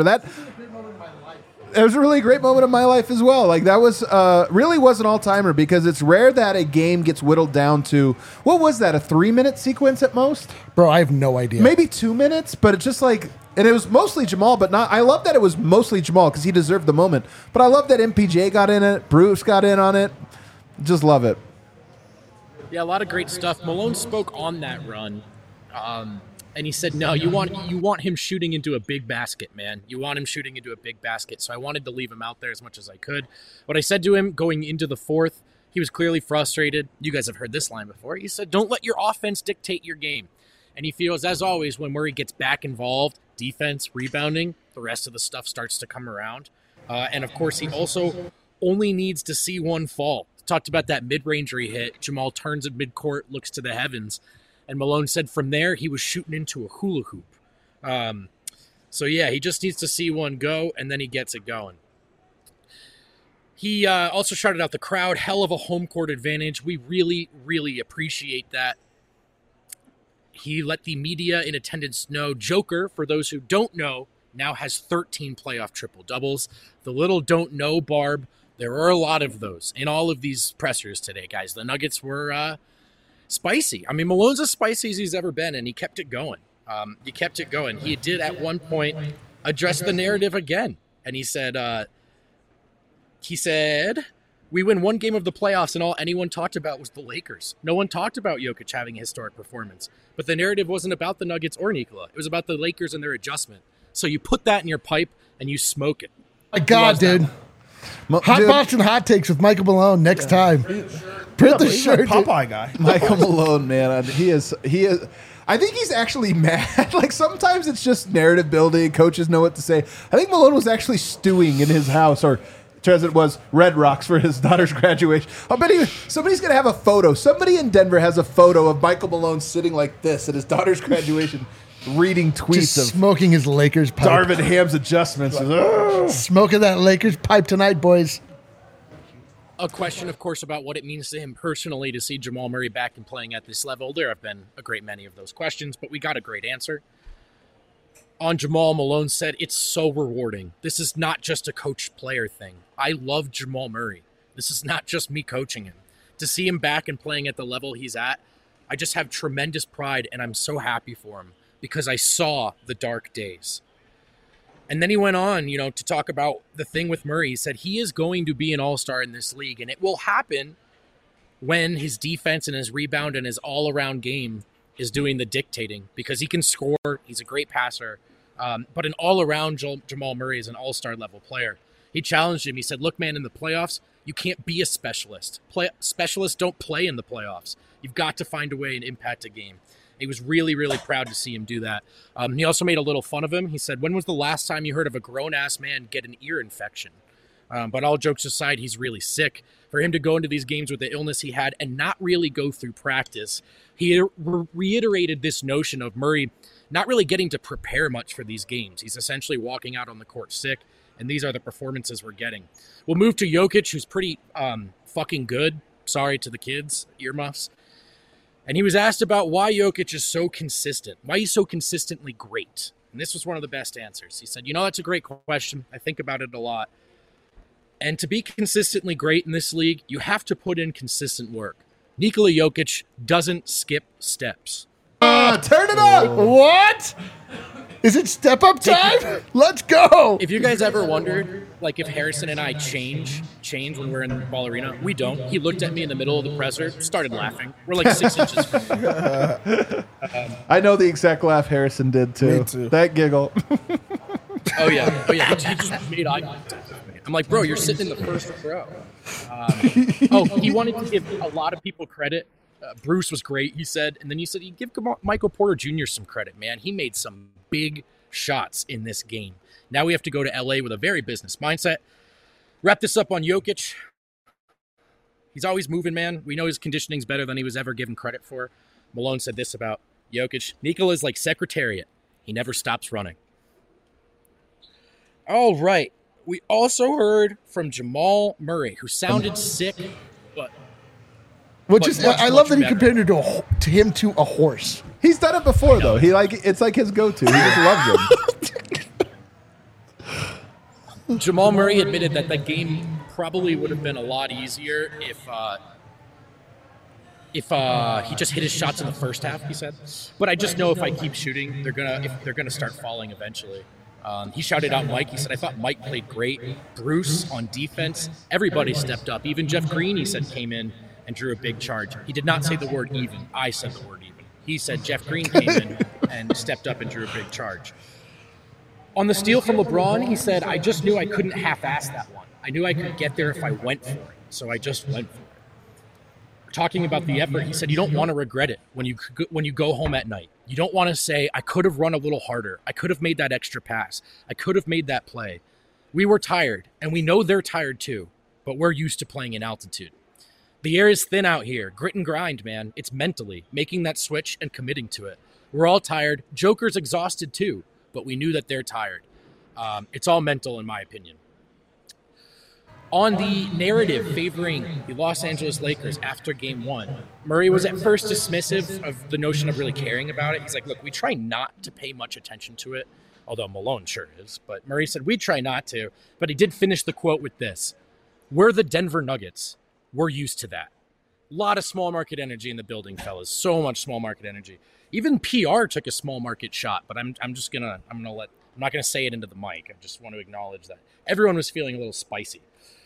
It was a really great moment of my life as well. Like that was really was an all-timer because it's rare that a game gets whittled down to, what was that, a 3-minute sequence at most? Bro, I have no idea. Maybe 2 minutes, but it's just like, and it was mostly Jamal, but not, I love that it was mostly Jamal because he deserved the moment. But I love that MPJ got in it, Bruce got in on it. Just love it. Yeah, a lot of great stuff. Malone spoke on that run, and he said, "No, you want him shooting into a big basket, man. You want him shooting into a big basket." So I wanted to leave him out there as much as I could. What I said to him going into the 4th, he was clearly frustrated. You guys have heard this line before. He said, "Don't let your offense dictate your game." And he feels, as always, when Murray gets back involved, defense, rebounding, the rest of the stuff starts to come around. And of course, he also only needs to see one fall. Talked about that mid-range he hit. Jamal turns at midcourt, looks to the heavens. And Malone said from there, he was shooting into a hula hoop. So yeah, he just needs to see one go, and then he gets it going. He also shouted out the crowd, hell of a home court advantage. We really, really appreciate that. He let the media in attendance know. Joker, for those who don't know, now has 13 playoff triple-doubles. The little don't know, Barb, there are a lot of those in all of these pressers today, guys. The Nuggets were spicy. I mean, Malone's as spicy as he's ever been, and he kept it going. He did at one point address the narrative again, and he said, we win one game of the playoffs, and all anyone talked about was the Lakers. No one talked about Jokic having a historic performance. But the narrative wasn't about the Nuggets or Nikola. It was about the Lakers and their adjustment. So you put that in your pipe, and you smoke it. My God, dude. Hot Dude, Boston Hot Takes with Michael Malone next time. Print the He's a shirt. dude. Popeye guy. Michael Malone, man, he is. I think he's actually mad. Like sometimes it's just narrative building. Coaches know what to say. I think Malone was actually stewing in his house, or as it was Red Rocks for his daughter's graduation. I bet somebody's gonna have a photo. Somebody in Denver has a photo of Michael Malone sitting like this at his daughter's graduation, reading tweets Just of smoking his Lakers pipe. Darvin Ham's adjustments. Smoking that Lakers pipe tonight, boys. A question, of course, about what it means to him personally to see Jamal Murray back and playing at this level. There have been a great many of those questions, but we got a great answer. On Jamal, Malone said, "It's so rewarding. This is not just a coach-player thing. I love Jamal Murray. This is not just me coaching him. To see him back and playing at the level he's at, I just have tremendous pride, and I'm so happy for him because I saw the dark days." And then he went on, to talk about the thing with Murray. He said he is going to be an all-star in this league, and it will happen when his defense and his rebound and his all-around game is doing the dictating because he can score. He's a great passer. But an all-around Jamal Murray is an all-star level player. He challenged him. He said, "Look, man, in the playoffs, you can't be a specialist. Specialists don't play in the playoffs. You've got to find a way and impact a game." He was really, really proud to see him do that. He also made a little fun of him. He said, "When was the last time you heard of a grown-ass man get an ear infection?" But all jokes aside, he's really sick. For him to go into these games with the illness he had and not really go through practice, he reiterated this notion of Murray not really getting to prepare much for these games. He's essentially walking out on the court sick, and these are the performances we're getting. We'll move to Jokic, who's pretty fucking good. Sorry to the kids, earmuffs. And he was asked about why Jokic is so consistent, why he's so consistently great. And this was one of the best answers. He said, that's a great question. I think about it a lot. And to be consistently great in this league, you have to put in consistent work. Nikola Jokic doesn't skip steps. Turn it up! What? Is it step up time? Let's go. If you guys ever wondered, if Harrison and I change when we're in the ball arena, we don't. He looked at me in the middle of the presser, started laughing. We're 6 inches from him. I know the exact laugh Harrison did too. Me too. That giggle. Oh yeah. He just made eye contact with me. I'm like, bro, you're sitting in the first row. He wanted to give a lot of people credit. Bruce was great, he said. And then he said he'd give Michael Porter Jr. some credit, man. He made some big shots in this game. Now we have to go to LA with a very business mindset. Wrap this up on Jokic. He's always moving, man. We know his conditioning's better than he was ever given credit for. Malone said this about Jokic. Nikola's like Secretariat. He never stops running. All right. We also heard from Jamal Murray, who sounded sick, but I love that he compared him to a horse. He's done it before though. It's like his go-to. He just loves him. Jamal Murray admitted that that game probably would have been a lot easier if he just hit his shots in the first half, he said. But I just know if I keep shooting, they're gonna start falling eventually. He shouted out Mike. He said, I thought Mike played great. Bruce on defense, everybody stepped up. Even Jeff Green, he said, came in and drew a big charge. He did not say the word even. I said the word even. He said Jeff Green came in and stepped up and drew a big charge. On the steal from LeBron, he said, I just knew I couldn't half-ass that one. I knew I could get there if I went for it, so I just went for it. Talking about the effort, he said, you don't want to regret it when you go home at night. You don't want to say, I could have run a little harder. I could have made that extra pass. I could have made that play. We were tired, and we know they're tired too, but we're used to playing in altitude. The air is thin out here. Grit and grind, man. It's mentally making that switch and committing to it. We're all tired. Joker's exhausted too, but we knew that they're tired. It's all mental, in my opinion. On the narrative favoring the Los Angeles Lakers after Game 1, Murray was at first dismissive of the notion of really caring about it. He's like, look, we try not to pay much attention to it, although Malone sure is. But Murray said, we try not to. But he did finish the quote with this. We're the Denver Nuggets. We're used to that. A lot of small market energy in the building, fellas. So much small market energy. Even PR took a small market shot, but I'm not gonna say it into the mic. I just want to acknowledge that everyone was feeling a little spicy.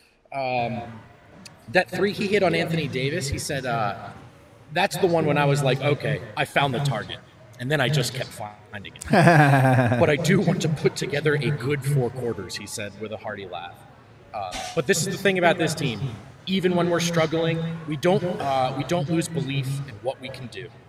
That three he hit on Anthony Davis, he said, that's the one when I was like, okay, I found the target. And then I just kept finding it. But I do want to put together a good 4 quarters, he said with a hearty laugh. But this is the thing about this team. Even when we're struggling, we don't lose belief in what we can do.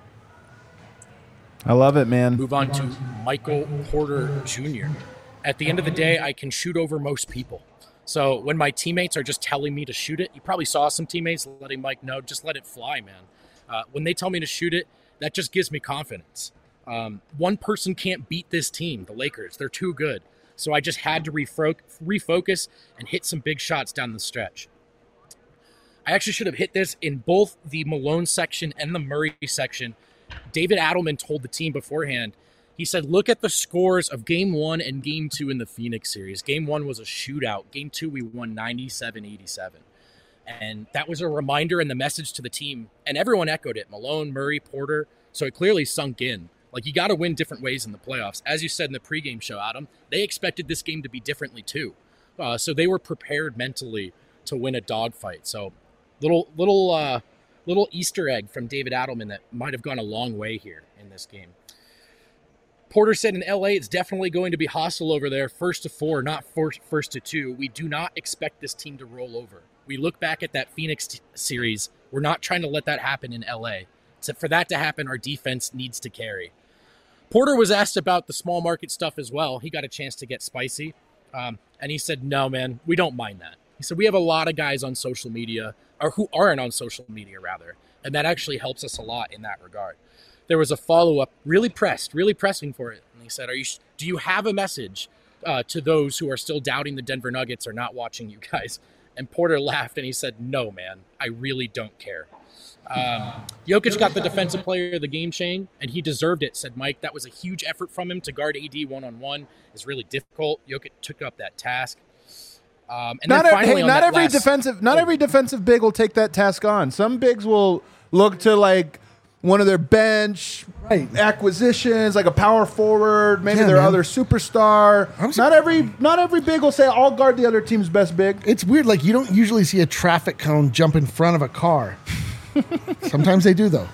I love it, man. Move on to Michael Porter Jr. At the end of the day, I can shoot over most people. So when my teammates are just telling me to shoot it, you probably saw some teammates letting Mike know, just let it fly, man. When they tell me to shoot it, that just gives me confidence. One person can't beat this team, the Lakers. They're too good. So I just had to refocus and hit some big shots down the stretch. I actually should have hit this in both the Malone section and the Murray section. David Adelman told the team beforehand, he said, look at the scores of Game 1 and Game 2 in the Phoenix series. Game 1 was a shootout. Game 2, we won 97-87. And that was a reminder and the message to the team. And everyone echoed it. Malone, Murray, Porter. So it clearly sunk in. Like, you got to win different ways in the playoffs. As you said in the pregame show, Adam, they expected this game to be differently too. So they were prepared mentally to win a dogfight. So little Easter egg from David Adelman that might have gone a long way here in this game. Porter said in LA, it's definitely going to be hostile over there, 1st to 4, not 1st to 2. We do not expect this team to roll over. We look back at that Phoenix series. We're not trying to let that happen in LA. So for that to happen, our defense needs to carry. Porter was asked about the small market stuff as well. He got a chance to get spicy. And he said, no, man, we don't mind that. He said, we have a lot of guys on social media, or who aren't on social media, rather, and that actually helps us a lot in that regard. There was a follow-up, really pressing for it. And he said, do you have a message to those who are still doubting the Denver Nuggets or not watching you guys? And Porter laughed, and he said, no, man, I really don't care. Jokic got the defensive player of the game chain, and he deserved it, said Mike. That was a huge effort from him to guard AD one-on-one. It's really difficult. Jokic took up that task. And not then finally, not every defensive big will take that task on. Some bigs will look to like one of their bench acquisitions, like a power forward, maybe their other superstar. Not every big will say, I'll guard the other team's best big. It's weird. Like, you don't usually see a traffic cone jump in front of a car. Sometimes they do, though.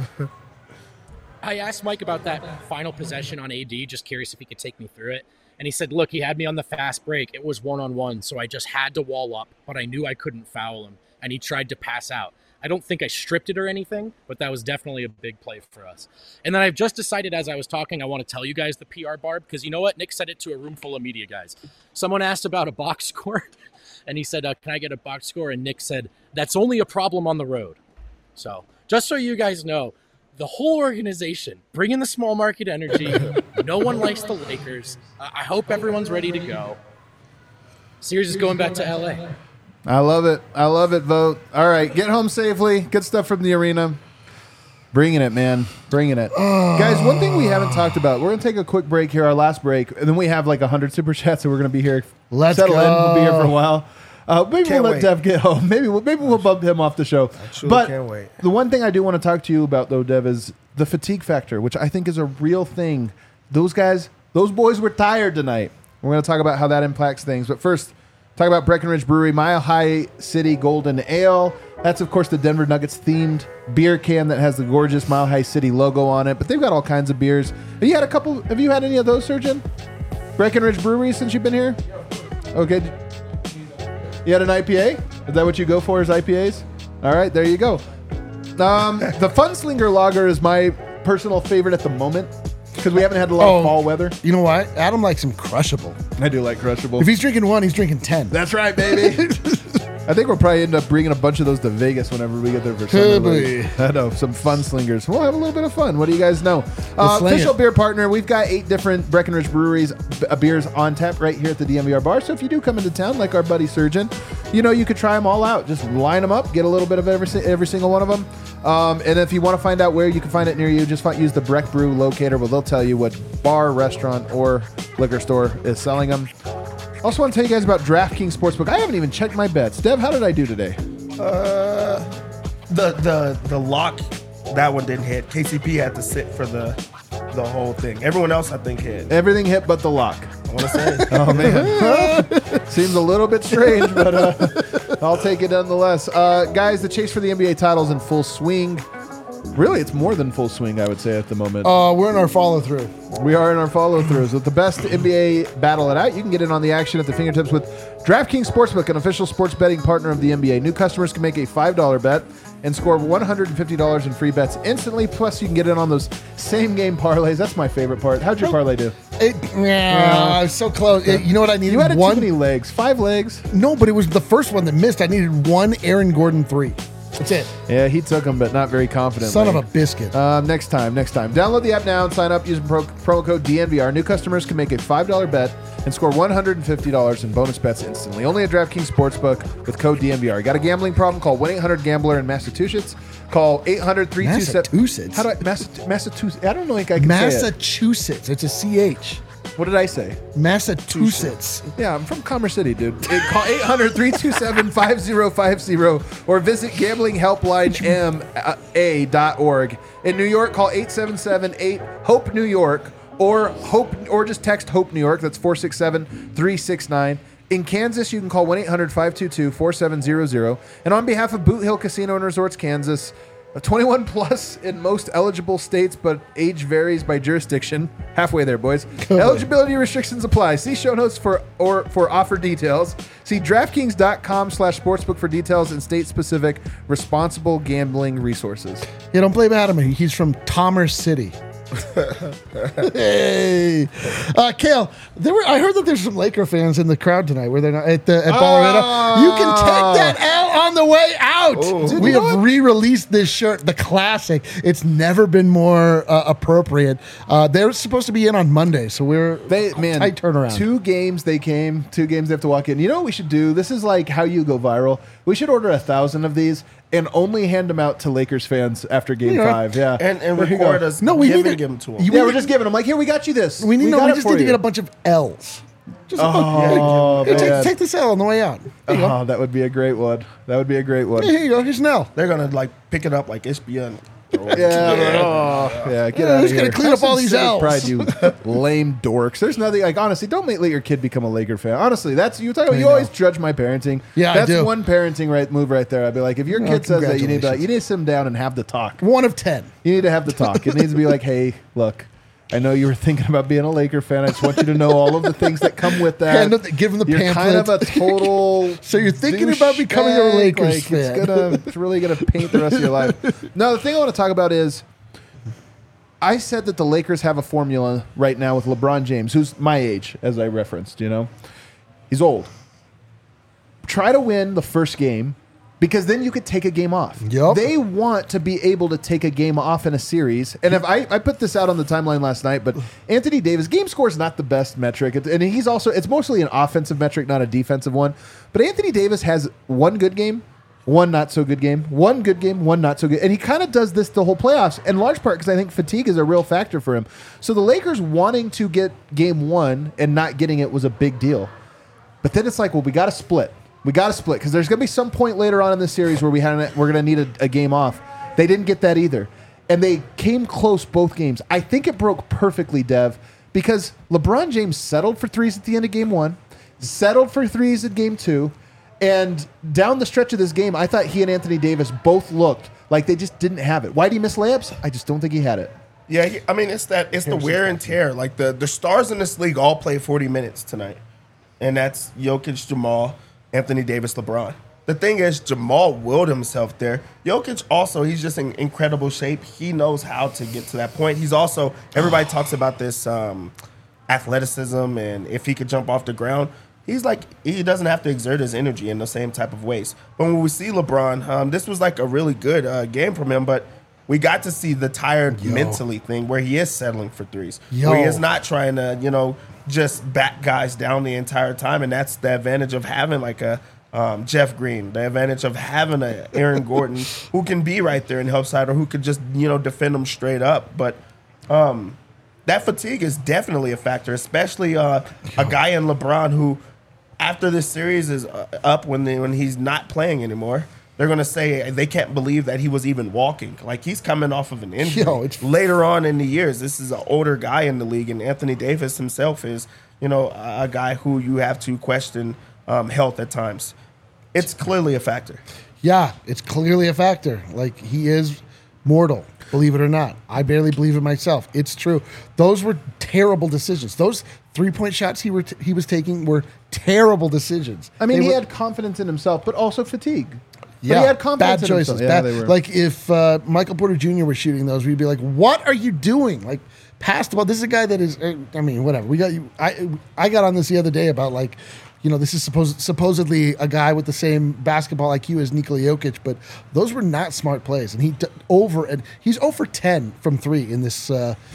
I asked Mike about that final possession on AD, just curious if he could take me through it. And he said, look, he had me on the fast break. It was one-on-one, so I just had to wall up, but I knew I couldn't foul him, and he tried to pass out. I don't think I stripped it or anything, but that was definitely a big play for us. And then I've just decided as I was talking, I want to tell you guys the PR barb, because you know what? Nick said it to a room full of media guys. Someone asked about a box score, and he said, can I get a box score? And Nick said, that's only a problem on the road. So just so you guys know, the whole organization, bringing the small market energy. No one likes the Lakers. I hope everyone's ready to go. Series is going back to LA. I love it, Vote. All right, get home safely. Good stuff from the arena. Bringing it, man. Bringing it. Guys, one thing we haven't talked about. We're going to take a quick break here, our last break, and then we have like 100 Super Chats, so we're going to be here. Let's settle go. in. We'll be here for a while. Maybe Can't we'll let wait. Dev get home. Maybe we'll bump him off the show. Truly can't wait. The one thing I do want to talk to you about, though, Dev, is the fatigue factor, which I think is a real thing. Those boys were tired tonight. We're going to talk about how that impacts things. But first, talk about Breckenridge Brewery, Mile High City Golden Ale. That's, of course, the Denver Nuggets themed beer can that has the gorgeous Mile High City logo on it. But they've got all kinds of beers. Have you had any of those, Surgeon? Breckenridge Brewery since you've been here? Okay. You had an IPA? Is that what you go for, is IPAs? All right, there you go. The Funslinger Lager is my personal favorite at the moment because we haven't had a lot of fall weather. You know what? Adam likes him crushable. I do like Crushable. If he's drinking one, he's drinking 10. That's right, baby. I think we'll probably end up bringing a bunch of those to Vegas whenever we get there for summer. Could I know, some fun slingers. We'll have a little bit of fun. What do you guys know? Sling Official it. beer partner. We've got 8 different Breckenridge Breweries beers on tap right here at the DMVR bar. So if you do come into town, like our buddy Surgeon, you could try them all out. Just line them up, get a little bit of every single one of them. And if you want to find out where you can find it near you, just use the Breck Brew locator. Well, they'll tell you what bar, restaurant, or liquor store is selling them. Also want to tell you guys about DraftKings Sportsbook. I haven't even checked my bets. Dev, how did I do today? The lock, that one didn't hit. KCP had to sit for the whole thing. Everyone else, I think, hit. Everything hit but the lock. I want to say. Oh, man. Seems a little bit strange, but I'll take it nonetheless. Guys, the chase for the NBA title's in full swing. Really, it's more than full swing, I would say, at the moment. We're in our follow-through. We are in our follow-throughs. With the best NBA battle it out, you can get in on the action at the fingertips with DraftKings Sportsbook, an official sports betting partner of the NBA. New customers can make a $5 bet and score $150 in free bets instantly. Plus, you can get in on those same-game parlays. That's my favorite part. How'd your parlay do? So close. You know what I needed? You had one. too many legs. 5 legs. No, but it was the first one that missed. I needed one Aaron Gordon 3. That's it. Yeah, he took them, but not very confidently. Son of a biscuit. Next time. Download the app now and sign up using promo code DNVR. New customers can make a $5 bet and score $150 in bonus bets instantly. Only at DraftKings Sportsbook with code DNVR. Got a gambling problem? Call 1-800-GAMBLER in Massachusetts. Call 800-327... Massachusetts? How do I... Massachusetts. I don't know if I can say it. Massachusetts. It's a CH. What did I say? Massachusetts. Yeah, I'm from Commerce City, dude. Call 800-327-5050 or visit gamblinghelplinema.org. In New York, call 877-8-HOPE-NEW YORK or just text HOPE New York. That's 467-369. In Kansas, you can call 1-800-522-4700. And on behalf of Boot Hill Casino and Resorts, Kansas, 21 plus in most eligible states, but age varies by jurisdiction. Halfway there, boys. Eligibility restrictions apply. See show notes for offer details. See DraftKings.com/sportsbook for details and state-specific responsible gambling resources. Yeah, don't blame Adam. He's from Commerce City. Hey, Kale. I heard that there's some Laker fans in the crowd tonight. Were they not at Ball Arena? You can take that L on the way out. Oh. We have re-released this shirt, the classic. It's never been more appropriate. They're supposed to be in on Monday, so we're tight turnaround. 2 games they came. 2 games they have to walk in. You know what we should do? This is like how you go viral. We should order 1,000 of these and only hand them out to Lakers fans after Game 5. Yeah, And There you record go. us No, we need to give them to them. Yeah, we're just giving them like, here, we got you this. We got it just for need to you. get a bunch of L's. Just Oh, man. take this L on the way out. Here you go. Oh, that would be a great one. That would be a great one. Here you go. Here's an L. They're gonna like pick it up like HBN. Yeah, get out of who's here. gonna clean Have up all some these civic L's? pride, you lame dorks. There's nothing like honestly. Don't let your kid become a Laker fan. Honestly, that's you talk about. You always judge my parenting. Yeah, I that's do. one parenting move right there. I'd be like, if your kid says that, you need to sit them down and have the talk. 1 of 10. You need to have the talk. It needs to be like, hey, look. I know you were thinking about being a Laker fan. I just want you to know all of the things that come with that. Give him the You're kind of a pamphlet. total. So you're thinking about becoming a douchebag. Lakers fan. It's really gonna paint the rest of your life. No, the thing I want to talk about is, I said that the Lakers have a formula right now with LeBron James, who's my age, as I referenced. You know, he's old. Try to win the first game, because then you could take a game off. Yep. They want to be able to take a game off in a series. And if I put this out on the timeline last night, but Anthony Davis, game score is not the best metric. And it's mostly an offensive metric, not a defensive one. But Anthony Davis has 1 good game, 1 not so good game, 1 good game, 1 not so good. And he kind of does this the whole playoffs, in large part because I think fatigue is a real factor for him. So the Lakers wanting to get game 1 and not getting it was a big deal. But then it's like, well, we got to split. We got to split because there's going to be some point later on in this series where we're going to need a game off. They didn't get that either. And they came close both games. I think it broke perfectly, Dev, because LeBron James settled for threes at the end of game 1, settled for threes at game 2, and down the stretch of this game, I thought he and Anthony Davis both looked like they just didn't have it. Why did he miss layups? I just don't think he had it. Yeah, I mean it's the wear and tear. Like the stars in this league all play 40 minutes tonight, and that's Jokic, Jamal, Anthony Davis, LeBron. The thing is, Jamal willed himself there. Jokic also, he's just in incredible shape. He knows how to get to that point. He's also, everybody talks about this athleticism and if he could jump off the ground. He's like, he doesn't have to exert his energy in the same type of ways. But when we see LeBron, this was like a really good game from him, but we got to see the tired mentally thing where he is settling for threes. Where he is not trying to, just back guys down the entire time. And that's the advantage of having like a Jeff Green, the advantage of having a Aaron Gordon who can be right there and help side or who could just, defend them straight up. But that fatigue is definitely a factor, especially a guy in LeBron who, after this series is up, when he's not playing anymore, they're going to say they can't believe that he was even walking. Like, he's coming off of an injury. Later on in the years, this is an older guy in the league, and Anthony Davis himself is, a guy who you have to question health at times. It's clearly a factor. Yeah, it's clearly a factor. Like, he is mortal, believe it or not. I barely believe it myself. It's true. Those were terrible decisions. Those 3-point shots he was taking were terrible decisions. I mean, he had confidence in himself, but also fatigue. Yeah, but he had confidence bad in choices. himself. Yeah, they were. Like, if Michael Porter Jr. was shooting those, we'd be like, what are you doing? Like, pass the ball. This is a guy that is, I mean, whatever. We got you. I got on this the other day about, like, this is supposedly a guy with the same basketball IQ as Nikola Jokic, but those were not smart plays. And he's 0 for 10 from 3 in this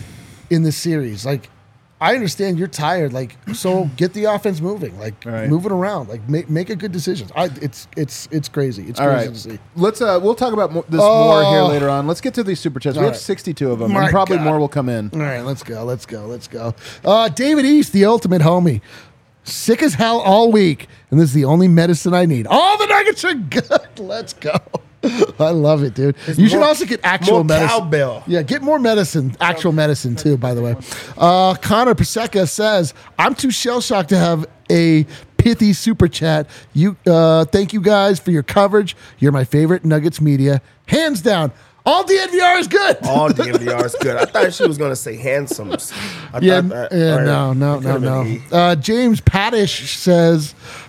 series. Like, I understand you're tired. Like, so get the offense moving. Like, move it around. Like, make a good decision. It's crazy. It's crazy to see. Let's we'll talk about this more here later on. Let's get to these super chats. We have 62 of them, and probably more will come in. All right, let's go. David East, the ultimate homie. Sick as hell all week, and this is the only medicine I need. All the Nuggets are good. Let's go. I love it, dude. You should also get actual medicine. Cowbell. Yeah, get more medicine, actual medicine too, by the way. Connor Paseka says, I'm too shell-shocked to have a pithy super chat. Thank you guys for your coverage. You're my favorite Nuggets media. Hands down. All DNVR is good. All DNVR is good. I thought she was going to say handsomes. No. James Paddish says,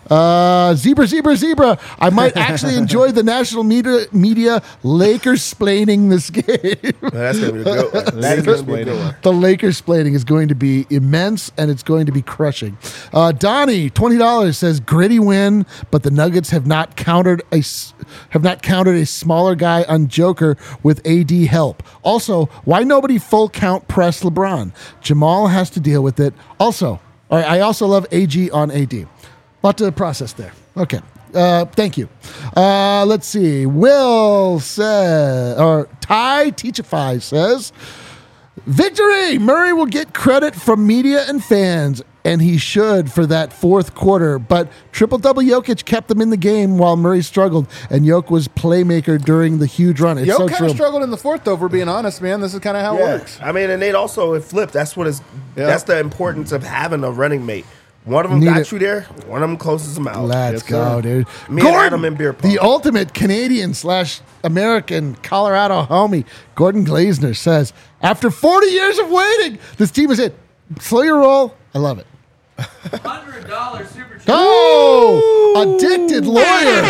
Zebra. I might actually enjoy the national media Lakers splaining this game. That's going to be a good one. That is going to be a good one. The Lakers splaining is going to be immense, and it's going to be crushing. Donnie, $20 says gritty win, but the Nuggets have not countered a smaller guy on Joker with AD help. Also, why nobody full count press LeBron? Jamal has to deal with it. Also, I also love AG on AD. Lot to process there. Okay. Thank you. Let's see. Will says, or Ty Teachify says, victory! Murray will get credit from media and fans, and he should for that fourth quarter. But triple-double Jokic kept them in the game while Murray struggled, and Jokic was playmaker during the huge run. It's so Jokic true. kind of struggled in the fourth, though, if we're being honest, man. This is kind of how it works. I mean, and it flipped. That's what is. Yeah. That's the importance of having a running mate. One of them got you there. One of them closes them out. Let's go, dude. Me and Adam in beer pong. The ultimate Canadian/American Colorado homie, Gordon Glazner says, after 40 years of waiting, this team is it. Slow your roll. I love it. $100 super chat. Oh, addicted lawyer.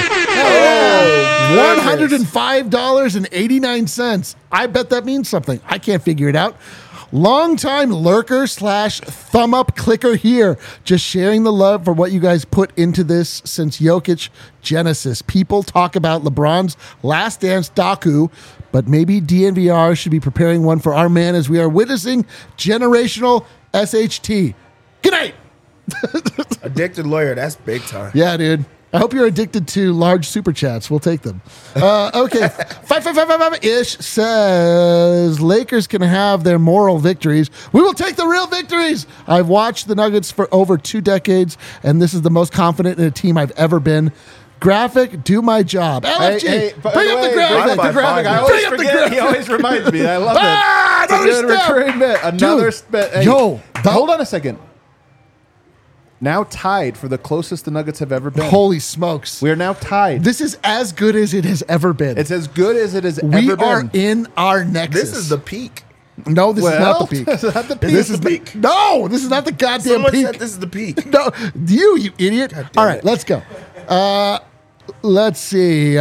$105.89. I bet that means something. I can't figure it out. Longtime lurker / thumb up clicker here. Just sharing the love for what you guys put into this since Jokic Genesis. People talk about LeBron's last dance docu, but maybe DNVR should be preparing one for our man as we are witnessing generational SHT. Good night. Addicted lawyer. That's big time. Yeah, dude. I hope you're addicted to large super chats. We'll take them. Okay. 555-ish says Lakers can have their moral victories. We will take the real victories. I've watched the Nuggets for over 2 decades, and this is the most confident in a team I've ever been. Graphic, do my job. LFG, bring up the graphic. I always forget. He always reminds me. I love it. It's a good recurring bit. Another spit. Hey, hold on a second. Now tied for the closest the Nuggets have ever been. Holy smokes. We are now tied. This is as good as it has ever been. It's as good as it has ever We been. are in our nexus. This is the peak. No, this is not the peak. This is not the peak. This is the peak. No, this is not the goddamn Someone peak. said this is the peak. No, you idiot. All right, it. let's go. Let's see.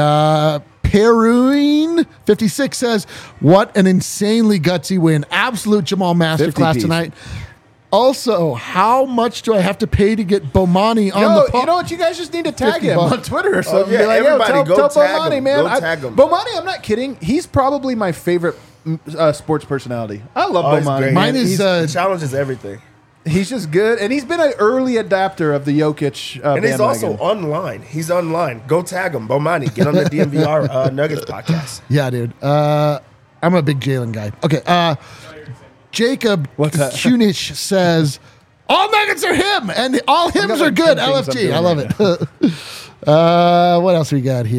Peruine56 says, what an insanely gutsy win. Absolute Jamal masterclass 50-piece. tonight. Also, how much do I have to pay to get Bomani on the pod? You know what? You guys just need to tag 50 him bucks. on Twitter or something. yeah, Be like, everybody tell go tag Bomani, him. man. Go tag him. Bomani, I'm not kidding. He's probably my favorite sports personality. I love Oh, he's Bomani. great. Mine is He challenges everything. He's just good, and he's been an early adapter of the Jokic And he's bandwagon. also online. He's online. Go tag him. Bomani. Get on the DNVR Nuggets podcast. Yeah, dude. I'm a big Jalen guy. Okay. Jacob What's that? Kunish says, all Nuggets are him, and all hims are good. 10 things I'm LFG. doing I love right it. What else we got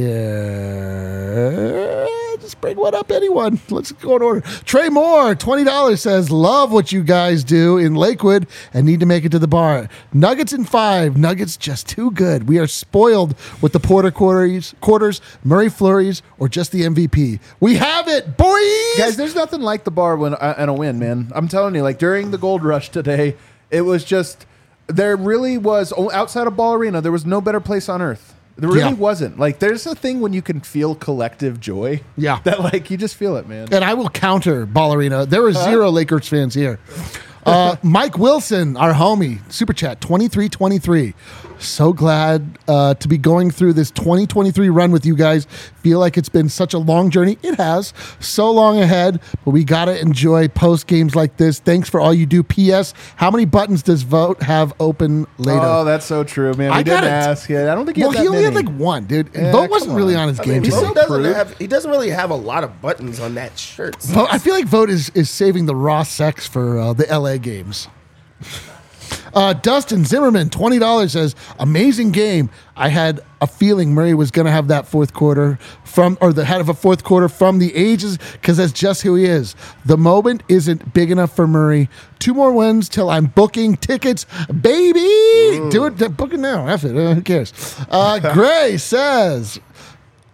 here? Just bring one up, anyone. Let's go in order. Trey Moore, $20 says, love what you guys do in Lakewood and need to make it to the bar. Nuggets in 5. Nuggets just too good. We are spoiled with the Porter quarters, Murray flurries, or just the MVP. We have it, boys! Guys, there's nothing like the bar and a win, man. I'm telling you, like during the Gold Rush today, it was just there really was outside of Ball Arena. There was no better place on earth. There really wasn't. Like there's a thing when you can feel collective joy. Yeah. That like you just feel it, man. And I will counter Ball Arena. There were 0 Lakers fans here. Mike Wilson, our homie, Super Chat, 2323. So glad to be going through this 2023 run with you guys. Feel like it's been such a long journey. It has. So long ahead, but we got to enjoy post games like this. Thanks for all you do. P.S. How many buttons does Vote have open later? Oh, that's so true, man. We didn't ask. Yeah, I don't think he Well, had he that only had many. like 1, dude. Yeah, Vote wasn't come really on. on his I game mean, team. he doesn't really have a lot of buttons on that shirt. I feel like Vote is saving the raw sex for the LA games. Dustin Zimmerman, $20 says, amazing game. I had a feeling Murray was going to have that fourth quarter from the ages because that's just who he is. The moment isn't big enough for Murray. 2 more wins till I'm booking tickets, baby. Do it, book it now. F it. Who cares? Gray says,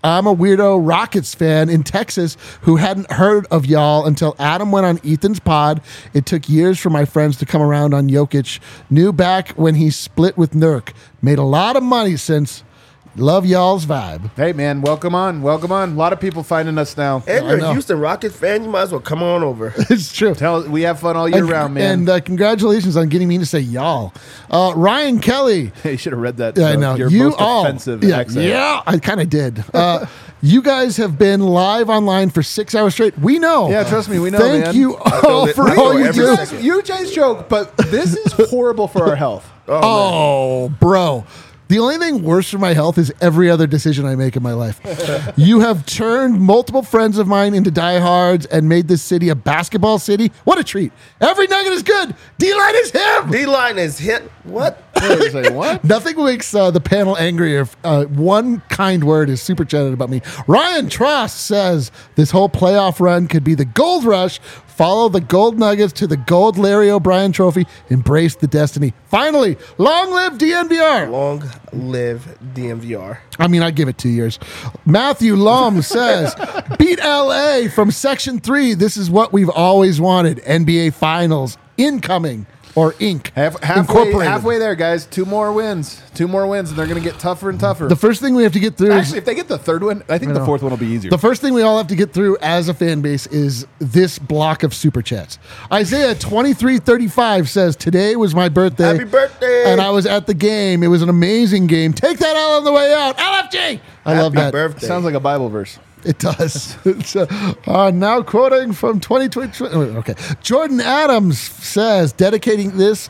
I'm a weirdo Rockets fan in Texas who hadn't heard of y'all until Adam went on Ethan's pod. It took years for my friends to come around on Jokic. Knew back when he split with Nurk. Made a lot of money since. Love y'all's vibe. Hey, man, welcome on. Welcome on. A lot of people finding us now. And you're a Houston Rockets fan, you might as well come on over. It's true. We have fun all year round, man. And congratulations on getting me to say y'all. Ryan Kelly. You should have read that. I know. Your You most all. offensive Yeah, accent. yeah, I kind of did. You guys have been live online for 6 hours straight. We know. Yeah, trust me, we know, Thank man. you all for know all you every do. second. You guys joke, but this is horrible for our health. Oh, bro. The only thing worse for my health is every other decision I make in my life. You have turned multiple friends of mine into diehards and made this city a basketball city. What a treat. Every nugget is good. D-line is him. D-line is hit. What? It's like, what? Nothing makes the panel angrier. One kind word is super chatted about me. Ryan Tross says this whole playoff run could be the gold rush. Follow the gold nuggets to the gold Larry O'Brien trophy. Embrace the destiny. Finally, long live DNVR. Long live DMVR. I mean, I'd give it 2 years. Matthew Lum says, beat LA from Section 3. This is what we've always wanted. NBA Finals incoming. Or Inc. Halfway there, guys. 2 more wins. 2 more wins, and they're going to get tougher and tougher. The first thing we have to get through Actually, if they get the 3rd one, I think the 4th one will be easier. The first thing we all have to get through as a fan base is this block of super chats. Isaiah 2335 says, today was my birthday. Happy birthday. And I was at the game. It was an amazing game. Take that L on the way out. LFG. I love that. Birthday. Sounds like a Bible verse. It does. It's, now quoting from 2020. Okay. Jordan Adams says, dedicating this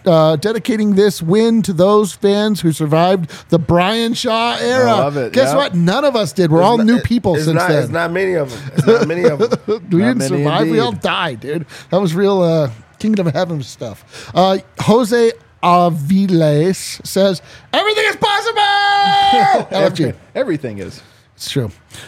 win to those fans who survived the Brian Shaw era. I love it. Guess Yep. what? None of us did. We're all new people since then. It's not many of them. It's not many of them. We didn't many survive. We indeed. all died, dude. That was real Kingdom of Heaven stuff. Jose Aviles says, everything is possible! LFG. Everything is. It's true.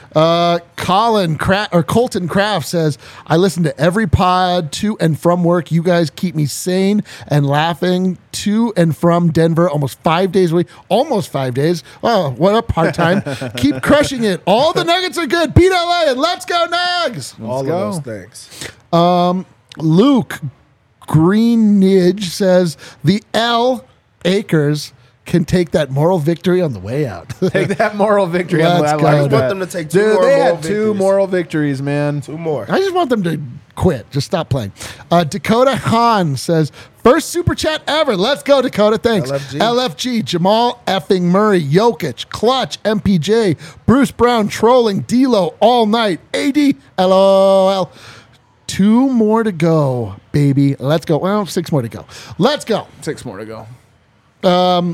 Colton Kraft says, I listen to every pod to and from work. You guys keep me sane and laughing to and from Denver almost 5 days a week. Almost 5 days. Oh, what a part-time. Keep crushing it. All the Nuggets are good. Beat LA and let's go Nugs. All go. of those things. Luke Greenidge says, the L Acres can take that moral victory on the way out. Take that moral victory. Let's I go. like I just that. want them to take 2 Dude, more they moral had 2 victories. moral victories, man. 2 more. I just want them to quit. Just stop playing. Dakota Hahn says, first super chat ever. Let's go, Dakota. Thanks. LFG, Jamal effing Murray, Jokic, Clutch, MPJ, Bruce Brown trolling, D'Lo all night, AD, LOL. 2 more to go, baby. Let's go. Well, 6 more to go. Let's go. 6 more to go.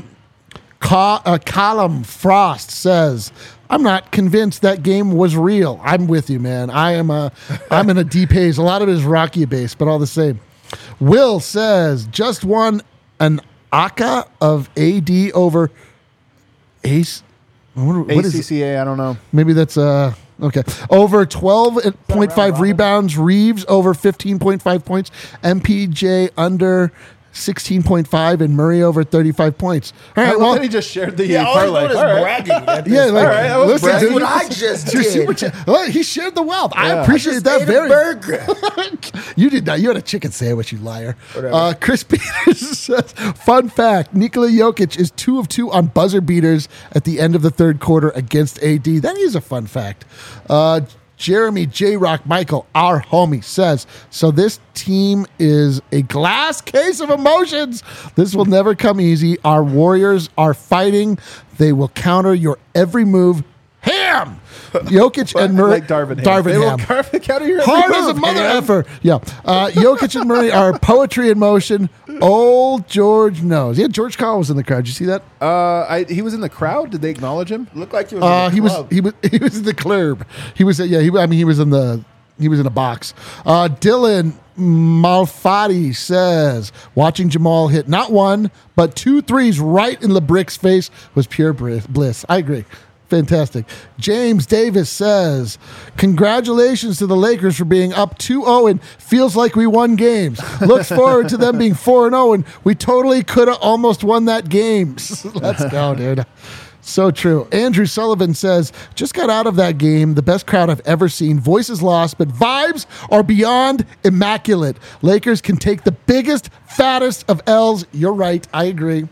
Column Frost says, I'm not convinced that game was real. I'm with you, man. I'm in a deep haze. A lot of it is Rocky based, but all the same. Will says, just won an ACA of AD over Ace. What is it? ACCA, I don't know. Maybe that's okay. Over 12.5 rebounds. Reeves over 15.5 points. MPJ under 16.5 and Murray over 35 points. All right, well, he just shared the Yeah, all he's parlay. doing is All right. bragging. at this yeah, point. like, right, I was listen, bragging. dude, That's what I just your did. super chat. Well, he shared the wealth. I Yeah. appreciate Just that ate a very. burger. You did not. You had a chicken sandwich, you liar. Whatever. Chris Peters says, fun fact, Nikola Jokic is 2 of 2 on buzzer beaters at the end of the 3rd quarter against AD. That is a fun fact. Jeremy J. Rock Michael, our homie, says, so this team is a glass case of emotions. This will never come easy. Our Warriors are fighting. They will counter your every move. Ham! Jokic and Murray. Like Darvin Ham. They will Ham. counter your Hard every as a move, mother Ham. effer. Yeah. Jokic and Murray are poetry in motion. Old George knows. Yeah, George Carl was in the crowd. Did you see that? He was in the crowd. Did they acknowledge him? Looked like he was in the club. He was in the club. He was in a box. Dylan Malfatti says, watching Jamal hit not 1 but 2 threes right in LeBric's face was pure bliss. I agree. Fantastic. James Davis says, congratulations to the Lakers for being up 2-0 and feels like we won games. Looks forward to them being 4-0 and we totally could have almost won that game. Let's go, dude. So true. Andrew Sullivan says, just got out of that game. The best crowd I've ever seen. Voices lost, but vibes are beyond immaculate. Lakers can take the biggest, fattest of L's. You're right. I agree.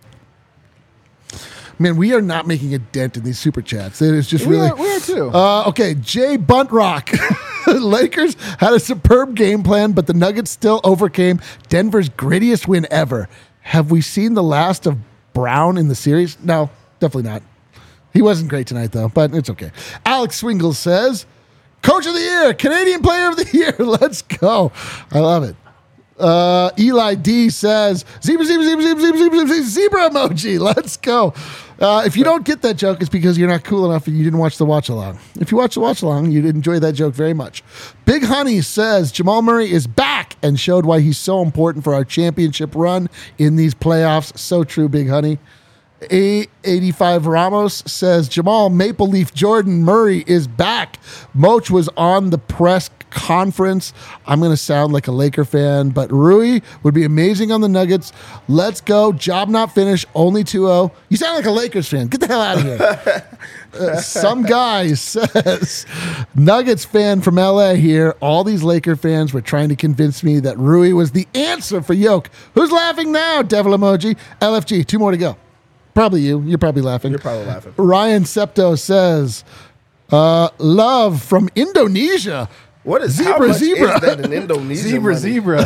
Man, we are not making a dent in these super chats. It is just really. We are too. Okay, Jay Buntrock. Lakers had a superb game plan, but the Nuggets still overcame Denver's grittiest win ever. Have we seen the last of Brown in the series? No, definitely not. He wasn't great tonight, though, but it's okay. Alex Swingle says, Coach of the Year, Canadian Player of the Year. Let's go. I love it. Eli D says, zebra emoji. Let's go. If you don't get that joke, it's because you're not cool enough and you didn't watch the watch along. If you watch the watch along, you'd enjoy that joke very much. Big Honey says Jamal Murray is back and showed why he's so important for our championship run in these playoffs. So true, Big Honey. A85 Ramos says Jamal Maple Leaf Jordan Murray is back. Moch was on the press conference. I'm going to sound like a Laker fan, but Rui would be amazing on the Nuggets. Let's go. Job not finished. Only 2-0. You sound like a Lakers fan. Get the hell out of here. Some guy says, Nuggets fan from LA here. All these Laker fans were trying to convince me that Rui was the answer for Yoke. Who's laughing now? Devil emoji. LFG. 2 more to go. Probably you. You're probably laughing. You're probably laughing. Ryan Septo says, love from Indonesia. What is Zebra, how much zebra. Is that in Indonesia? Zebra.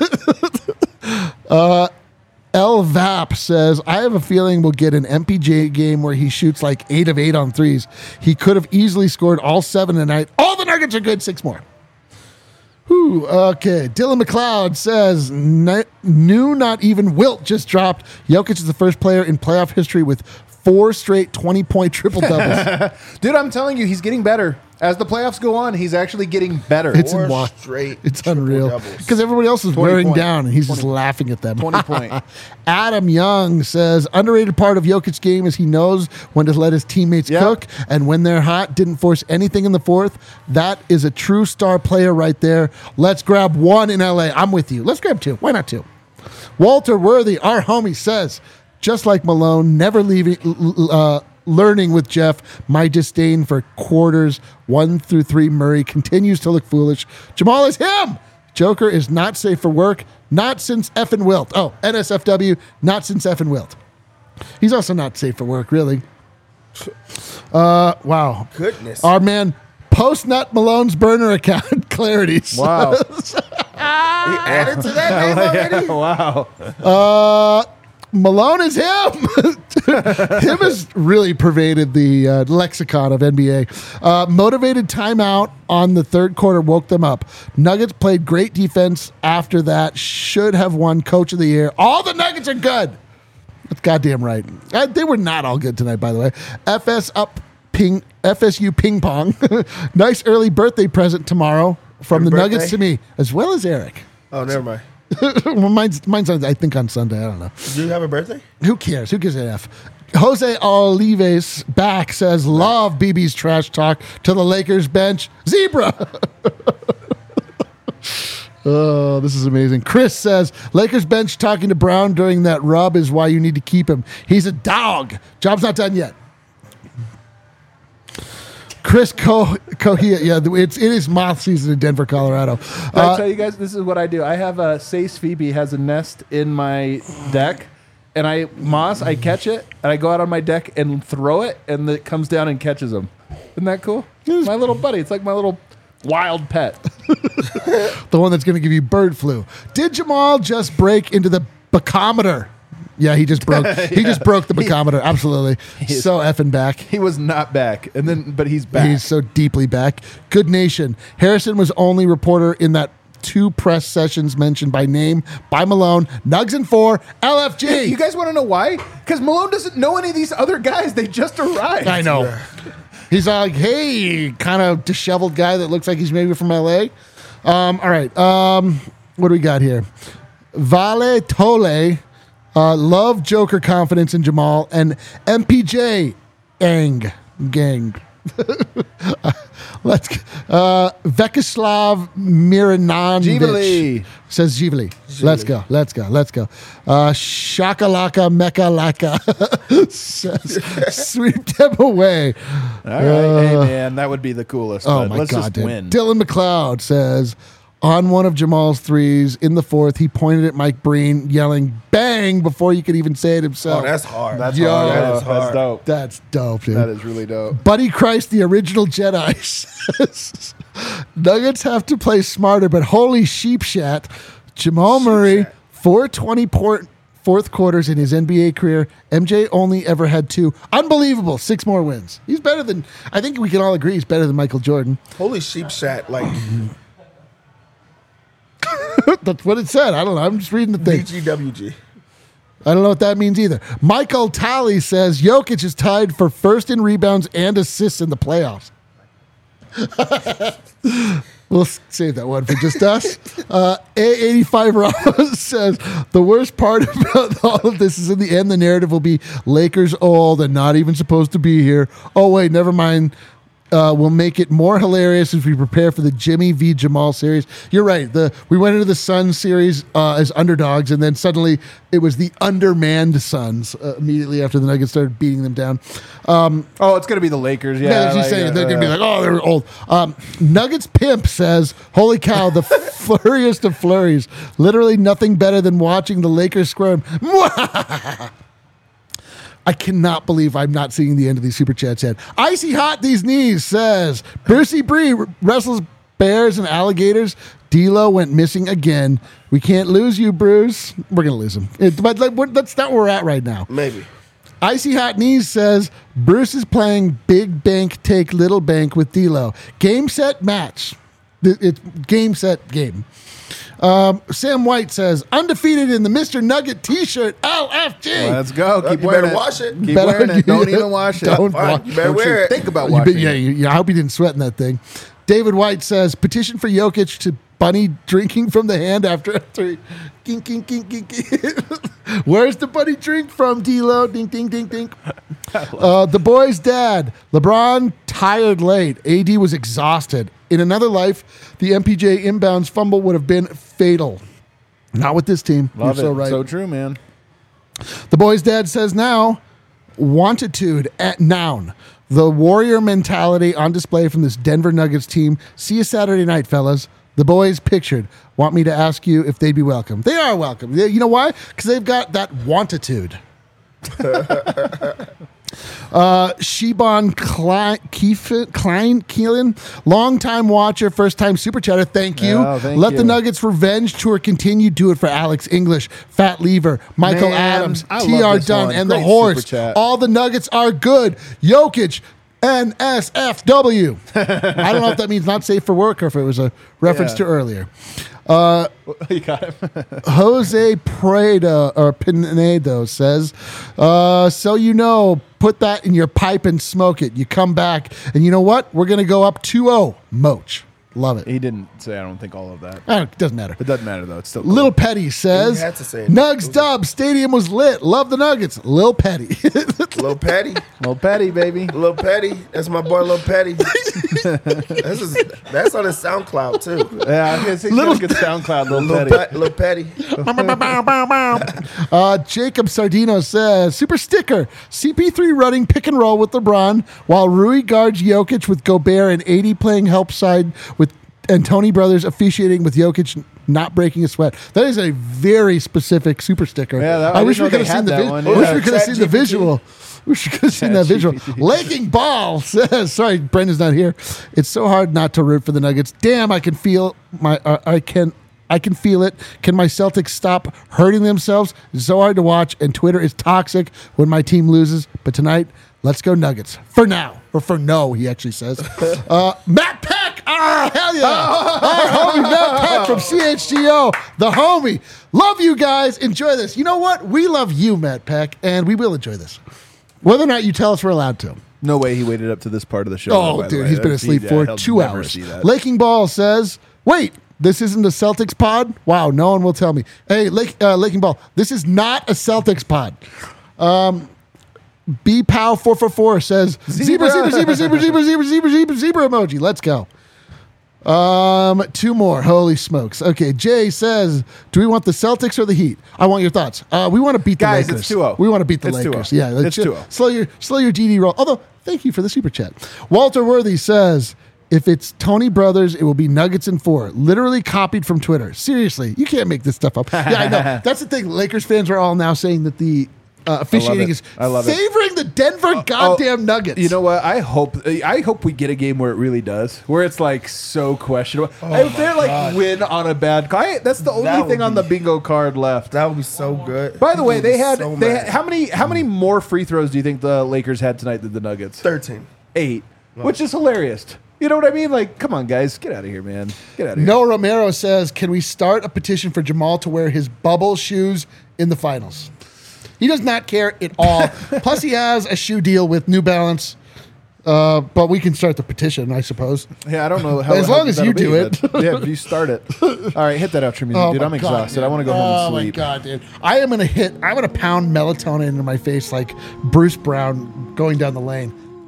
L Vap says, I have a feeling we'll get an MPJ game where he shoots like 8 of 8 on threes. He could have easily scored all 7 tonight. All the Nuggets are good. 6 more. Whew, okay. Dylan McLeod says, new not even Wilt just dropped. Jokic is the first player in playoff history with 4 straight 20-point triple-doubles. Dude, I'm telling you, he's getting better. As the playoffs go on, he's actually getting better. It's Four in wa- straight It's unreal. triple-doubles. Because everybody else is 20 wearing point. down, and he's just laughing at them. 20 point. Adam Young says, underrated part of Jokic's game is he knows when to let his teammates Yep. cook, and when they're hot, didn't force anything in the fourth. That is a true star player right there. Let's grab 1 in LA. I'm with you. Let's grab 2. Why not 2? Walter Worthy, our homie, says, just like Malone, never leaving... learning with Jeff, my disdain for quarters 1 through 3 Murray continues to look foolish. Jamal is him. Joker is not safe for work, not since effing Wilt. Oh, NSFW, not since effing Wilt. He's also not safe for work, really. Wow. Goodness. Our man, Post-Nut Malone's burner account, Clarity. Wow. He added to that name already? Wow. Malone is him. Him has really pervaded the lexicon of NBA. Motivated timeout on the third quarter woke them up. Nuggets played great defense after that. Should have won Coach of the Year. All the Nuggets are good. That's goddamn right. They were not all good tonight, by the way. FSU ping pong. Nice early birthday present tomorrow from Happy the Nuggets birthday. to me, as well as Eric. Oh, never mind. Well, mine's I think on Sunday. I don't know. Do you have a birthday? Who cares? Who gives a F? Jose Olives back says, love BB's trash talk to the Lakers bench. Zebra. Oh, this is amazing. Chris says, Lakers bench talking to Brown during that rub is why you need to keep him. He's a dog. Job's not done yet. Chris Cohia, yeah, it is moth season in Denver, Colorado. I'll tell you guys, this is what I do. I have a Sace Phoebe has a nest in my deck, and I catch it, and I go out on my deck and throw it, and it comes down and catches them. Isn't that cool? My little buddy. It's like my little wild pet. The one that's going to give you bird flu. Did Jamal just break into the bacometer? Yeah, he just broke. He just broke the bacometer. Absolutely, so effing back. He was not back, but he's back. He's so deeply back. Good nation. Harrison was only reporter in that 2 press sessions mentioned by name by Malone. Nugs and 4. LFG. You guys want to know why? Because Malone doesn't know any of these other guys. They just arrived. I know. He's like, hey, kind of disheveled guy that looks like he's maybe from LA. All right. What do we got here? Vale Tole. Love Joker confidence in Jamal and MPJ gang. Let's Vekislav Miranovic Givali. says Givali. Let's go. Shakalaka Mekalaka says sweep them away. All right. Hey, man, that would be the coolest. Oh but my let's God, just dude. win. Dylan McLeod says, on one of Jamal's threes in the fourth, he pointed at Mike Breen, yelling "bang" before he could even say it Oh, himself. that's hard. That's Yo, hard. that is That's hard. dope. That's dope, dude. That is really dope. Buddy Christ, the original Jedi, says, Nuggets have to play smarter, but holy sheep shat. Jamal Murray, 420 fourth quarters in his NBA career. MJ only ever had 2. Unbelievable. 6 more wins. He's better than, I think we can all agree he's better than Michael Jordan. Holy sheep shat. Like, That's what it said. I don't know. I'm just reading the thing. BGWG. I don't know what that means either. Michael Talley says Jokic is tied for first in rebounds and assists in the playoffs. We'll save that one for just us. A85 Ramos says the worst part about all of this is in the end the narrative will be Lakers old and not even supposed to be here. Oh wait, never mind. We'll make it more hilarious as we prepare for the Jimmy v. Jamal series. You're right. We went into the Suns series as underdogs, and then suddenly it was the undermanned Suns immediately after the Nuggets started beating them down. Oh, it's going to be the Lakers. Yeah, Yeah, she's saying they're going to be like, oh, they're old. Nuggets Pimp says, holy cow, the flurriest of flurries. Literally nothing better than watching the Lakers squirm. I cannot believe I'm not seeing the end of these super chats yet. Icy hot these knees says, Brucey Bree wrestles bears and alligators. D'Lo went missing again. We can't lose you, Bruce. We're going to lose him. But that's not where we're at right now. Maybe. Icy Hot Knees says, Bruce is playing big bank take little bank with D'Lo. Game, set, match. It's game, set, game. Sam White says, undefeated in the Mr. Nugget t-shirt, LFG. Let's go. Keep You wearing better it. wash it. Keep Better- wearing it. Don't even wash it. Don't Fine, wa- you better Don't wear you it. think about You washing bet- it. I hope he didn't sweat in that thing. David White says, petition for Jokic to bunny drinking from the hand after a 3. Kink, kink, kink, kink, kink. Where's the bunny drink from, D'Lo? Ding, ding, ding, ding. The boy's dad. LeBron tired late. AD was exhausted. In another life, the MPJ inbounds fumble would have been fatal. Not with this team. Love You're it. so right. So true, man. The boy's dad says now, wantitude at noun. The warrior mentality on display from this Denver Nuggets team. See you Saturday night, fellas. The boys pictured want me to ask you if they'd be welcome. They are welcome. You know why? Because they've got that wantitude. Shibon Keelan, long-time watcher, first-time super chatter. Thank you. Oh, thank Let you. the Nuggets revenge tour continue. Do it for Alex English, Fat Lever, Michael Man, Adams, I love TR this Dunn, one. and the Great Horse. super chat. All the Nuggets are good. Jokic, NSFW. I don't know if that means not safe for work or if it was a reference Yeah. to earlier. You got him. Jose Pinedo says, so you know, put that in your pipe and smoke it. You come back, and you know what? We're going to go up 2-0. Moch. Love it. He didn't say, I don't think, all of that. It doesn't matter. It doesn't matter, though. It's still cool. Lil Petty says, He had to say it. Nugs Dub, stadium was lit. Love the Nuggets. Lil Petty. Lil Petty. Little petty, baby. Lil Petty. That's my boy Lil Petty. that's on his SoundCloud, too. Yeah, I guess he's Little- got a good SoundCloud, Little Lil Petty. Petty. Jacob Sardino says, super sticker, CP3 running pick and roll with LeBron while Rui guards Jokic with Gobert and 80 playing help side with and Tony Brothers officiating with Jokic not breaking a sweat. That is a very specific super sticker. Yeah, I wish didn't we know could they have seen had the that one. I wish Yeah. we could have seen the ChatGPT. visual. Wish we could have seen that visual. ChatGPT. Laking Ball says, sorry, Brendan's not here. It's so hard not to root for the Nuggets. Damn, I can feel I can feel it. Can my Celtics stop hurting themselves? It's so hard to watch, and Twitter is toxic when my team loses. But tonight, let's go Nuggets. For now. Or for no, he actually says. Matt Peck! Ah, hell yeah! Our homie Matt Peck from CHGO. The homie. Love you guys. Enjoy this. You know what? We love you, Matt Peck, and we will enjoy this. Whether or not you tell us we're allowed to. No way he waited up to this part of the show. Oh, by the dude, way. he's been That's- asleep yeah, for he'll 2 never hours. see that. Laking Ball says, wait, this isn't a Celtics pod? Wow, no one will tell me. Hey, Laking Ball, this is not a Celtics pod. BPow444 says zebra emoji. Let's go. 2 more. Holy smokes. Okay, Jay says, do we want the Celtics or the Heat? I want your thoughts. We want to beat the Guys, Lakers. it's 2-0. We want to beat the It's Lakers. 2-0. Yeah, It's 2-0. Slow your GD roll. Although, thank you for the super chat. Walter Worthy says, if it's Tony Brothers, it will be Nuggets in 4. Literally copied from Twitter. Seriously, you can't make this stuff up. Yeah, I know. That's the thing. Lakers fans are all now saying that the officiating is favoring the Denver goddamn Nuggets. You know what? I hope we get a game where it really does, where it's like so questionable. If they're like win on a bad call, that's the only thing on the bingo card left. That would be so good. By the way, they had so how many more free throws do you think the Lakers had tonight than the Nuggets? 13. 8, which is hilarious. You know what I mean? Like, come on, guys, get out of here, man. Get out of here. Noah Romero says, can we start a petition for Jamal to wear his bubble shoes in the finals? He does not care at all. Plus, he has a shoe deal with New Balance. But we can start the petition, I suppose. Yeah, I don't know how. As long as you do it. Yeah, if you start it. All right, hit that outro music, dude. I'm exhausted. Dude. I want to go home and Oh sleep. my god, dude! I'm gonna pound melatonin into my face like Bruce Brown going down the lane.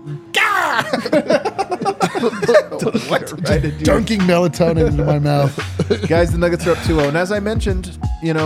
Dunking melatonin into my mouth. Guys, the Nuggets are up 2-0. And as I mentioned,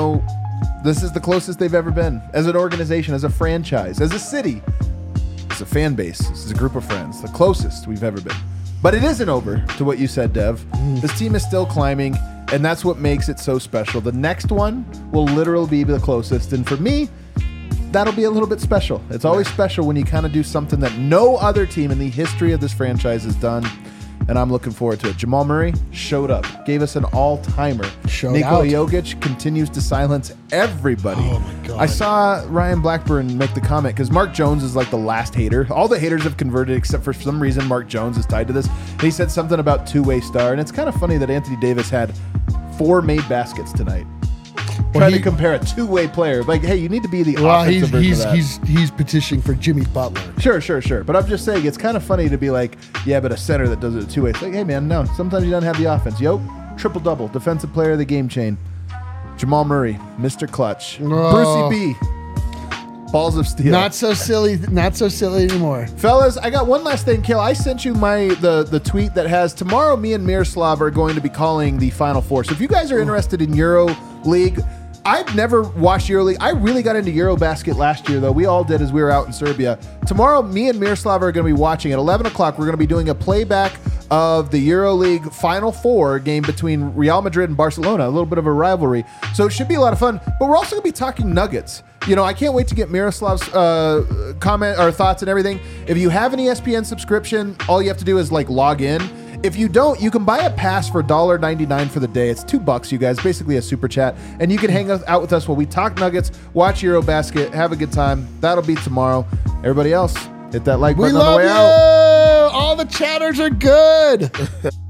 this is the closest they've ever been. As an organization, as a franchise, as a city, as a fan base, as a group of friends. The closest we've ever been. But it isn't over, to what you said, Dev. This team is still climbing, and that's what makes it so special. The next one will literally be the closest. And for me, that'll be a little bit special. It's always special when you kind of do something that no other team in the history of this franchise has done. And I'm looking forward to it. Jamal Murray showed up, gave us an all-timer. Nikola Jokic continues to silence everybody. Oh, my God. I saw Ryan Blackburn make the comment, because Mark Jones is like the last hater. All the haters have converted, except for some reason Mark Jones is tied to this. And he said something about two-way star. And it's kind of funny that Anthony Davis had 4 made baskets tonight. Trying to compare a two-way player. Like, hey, you need to be the offensive version of that. He's petitioning for Jimmy Butler. Sure. But I'm just saying, it's kind of funny to be like, yeah, but a center that does it a two-way. It's like, hey, man, no. Sometimes you don't have the offense. Triple-double. Defensive player of the game chain. Jamal Murray, Mr. Clutch. Brucey B. Balls of steel. Not so silly anymore. Fellas, I got one last thing. Kale, I sent you the tweet that has, tomorrow me and Miroslav are going to be calling the Final Four. So if you guys are interested in Euro League, I've never watched EuroLeague. I really got into Eurobasket last year, though. We all did as we were out in Serbia. Tomorrow, me and Miroslav are going to be watching. At 11 o'clock, we're going to be doing a playback of the EuroLeague Final Four game between Real Madrid and Barcelona, a little bit of a rivalry. So it should be a lot of fun. But we're also going to be talking Nuggets. I can't wait to get Miroslav's comment or thoughts and everything. If you have an ESPN subscription, all you have to do is log in. If you don't, you can buy a pass for $1.99 for the day. It's $2, you guys. Basically a super chat. And you can hang out with us while we talk Nuggets, watch Eurobasket, have a good time. That'll be tomorrow. Everybody else, hit that like button on the way out. All the chatters are good.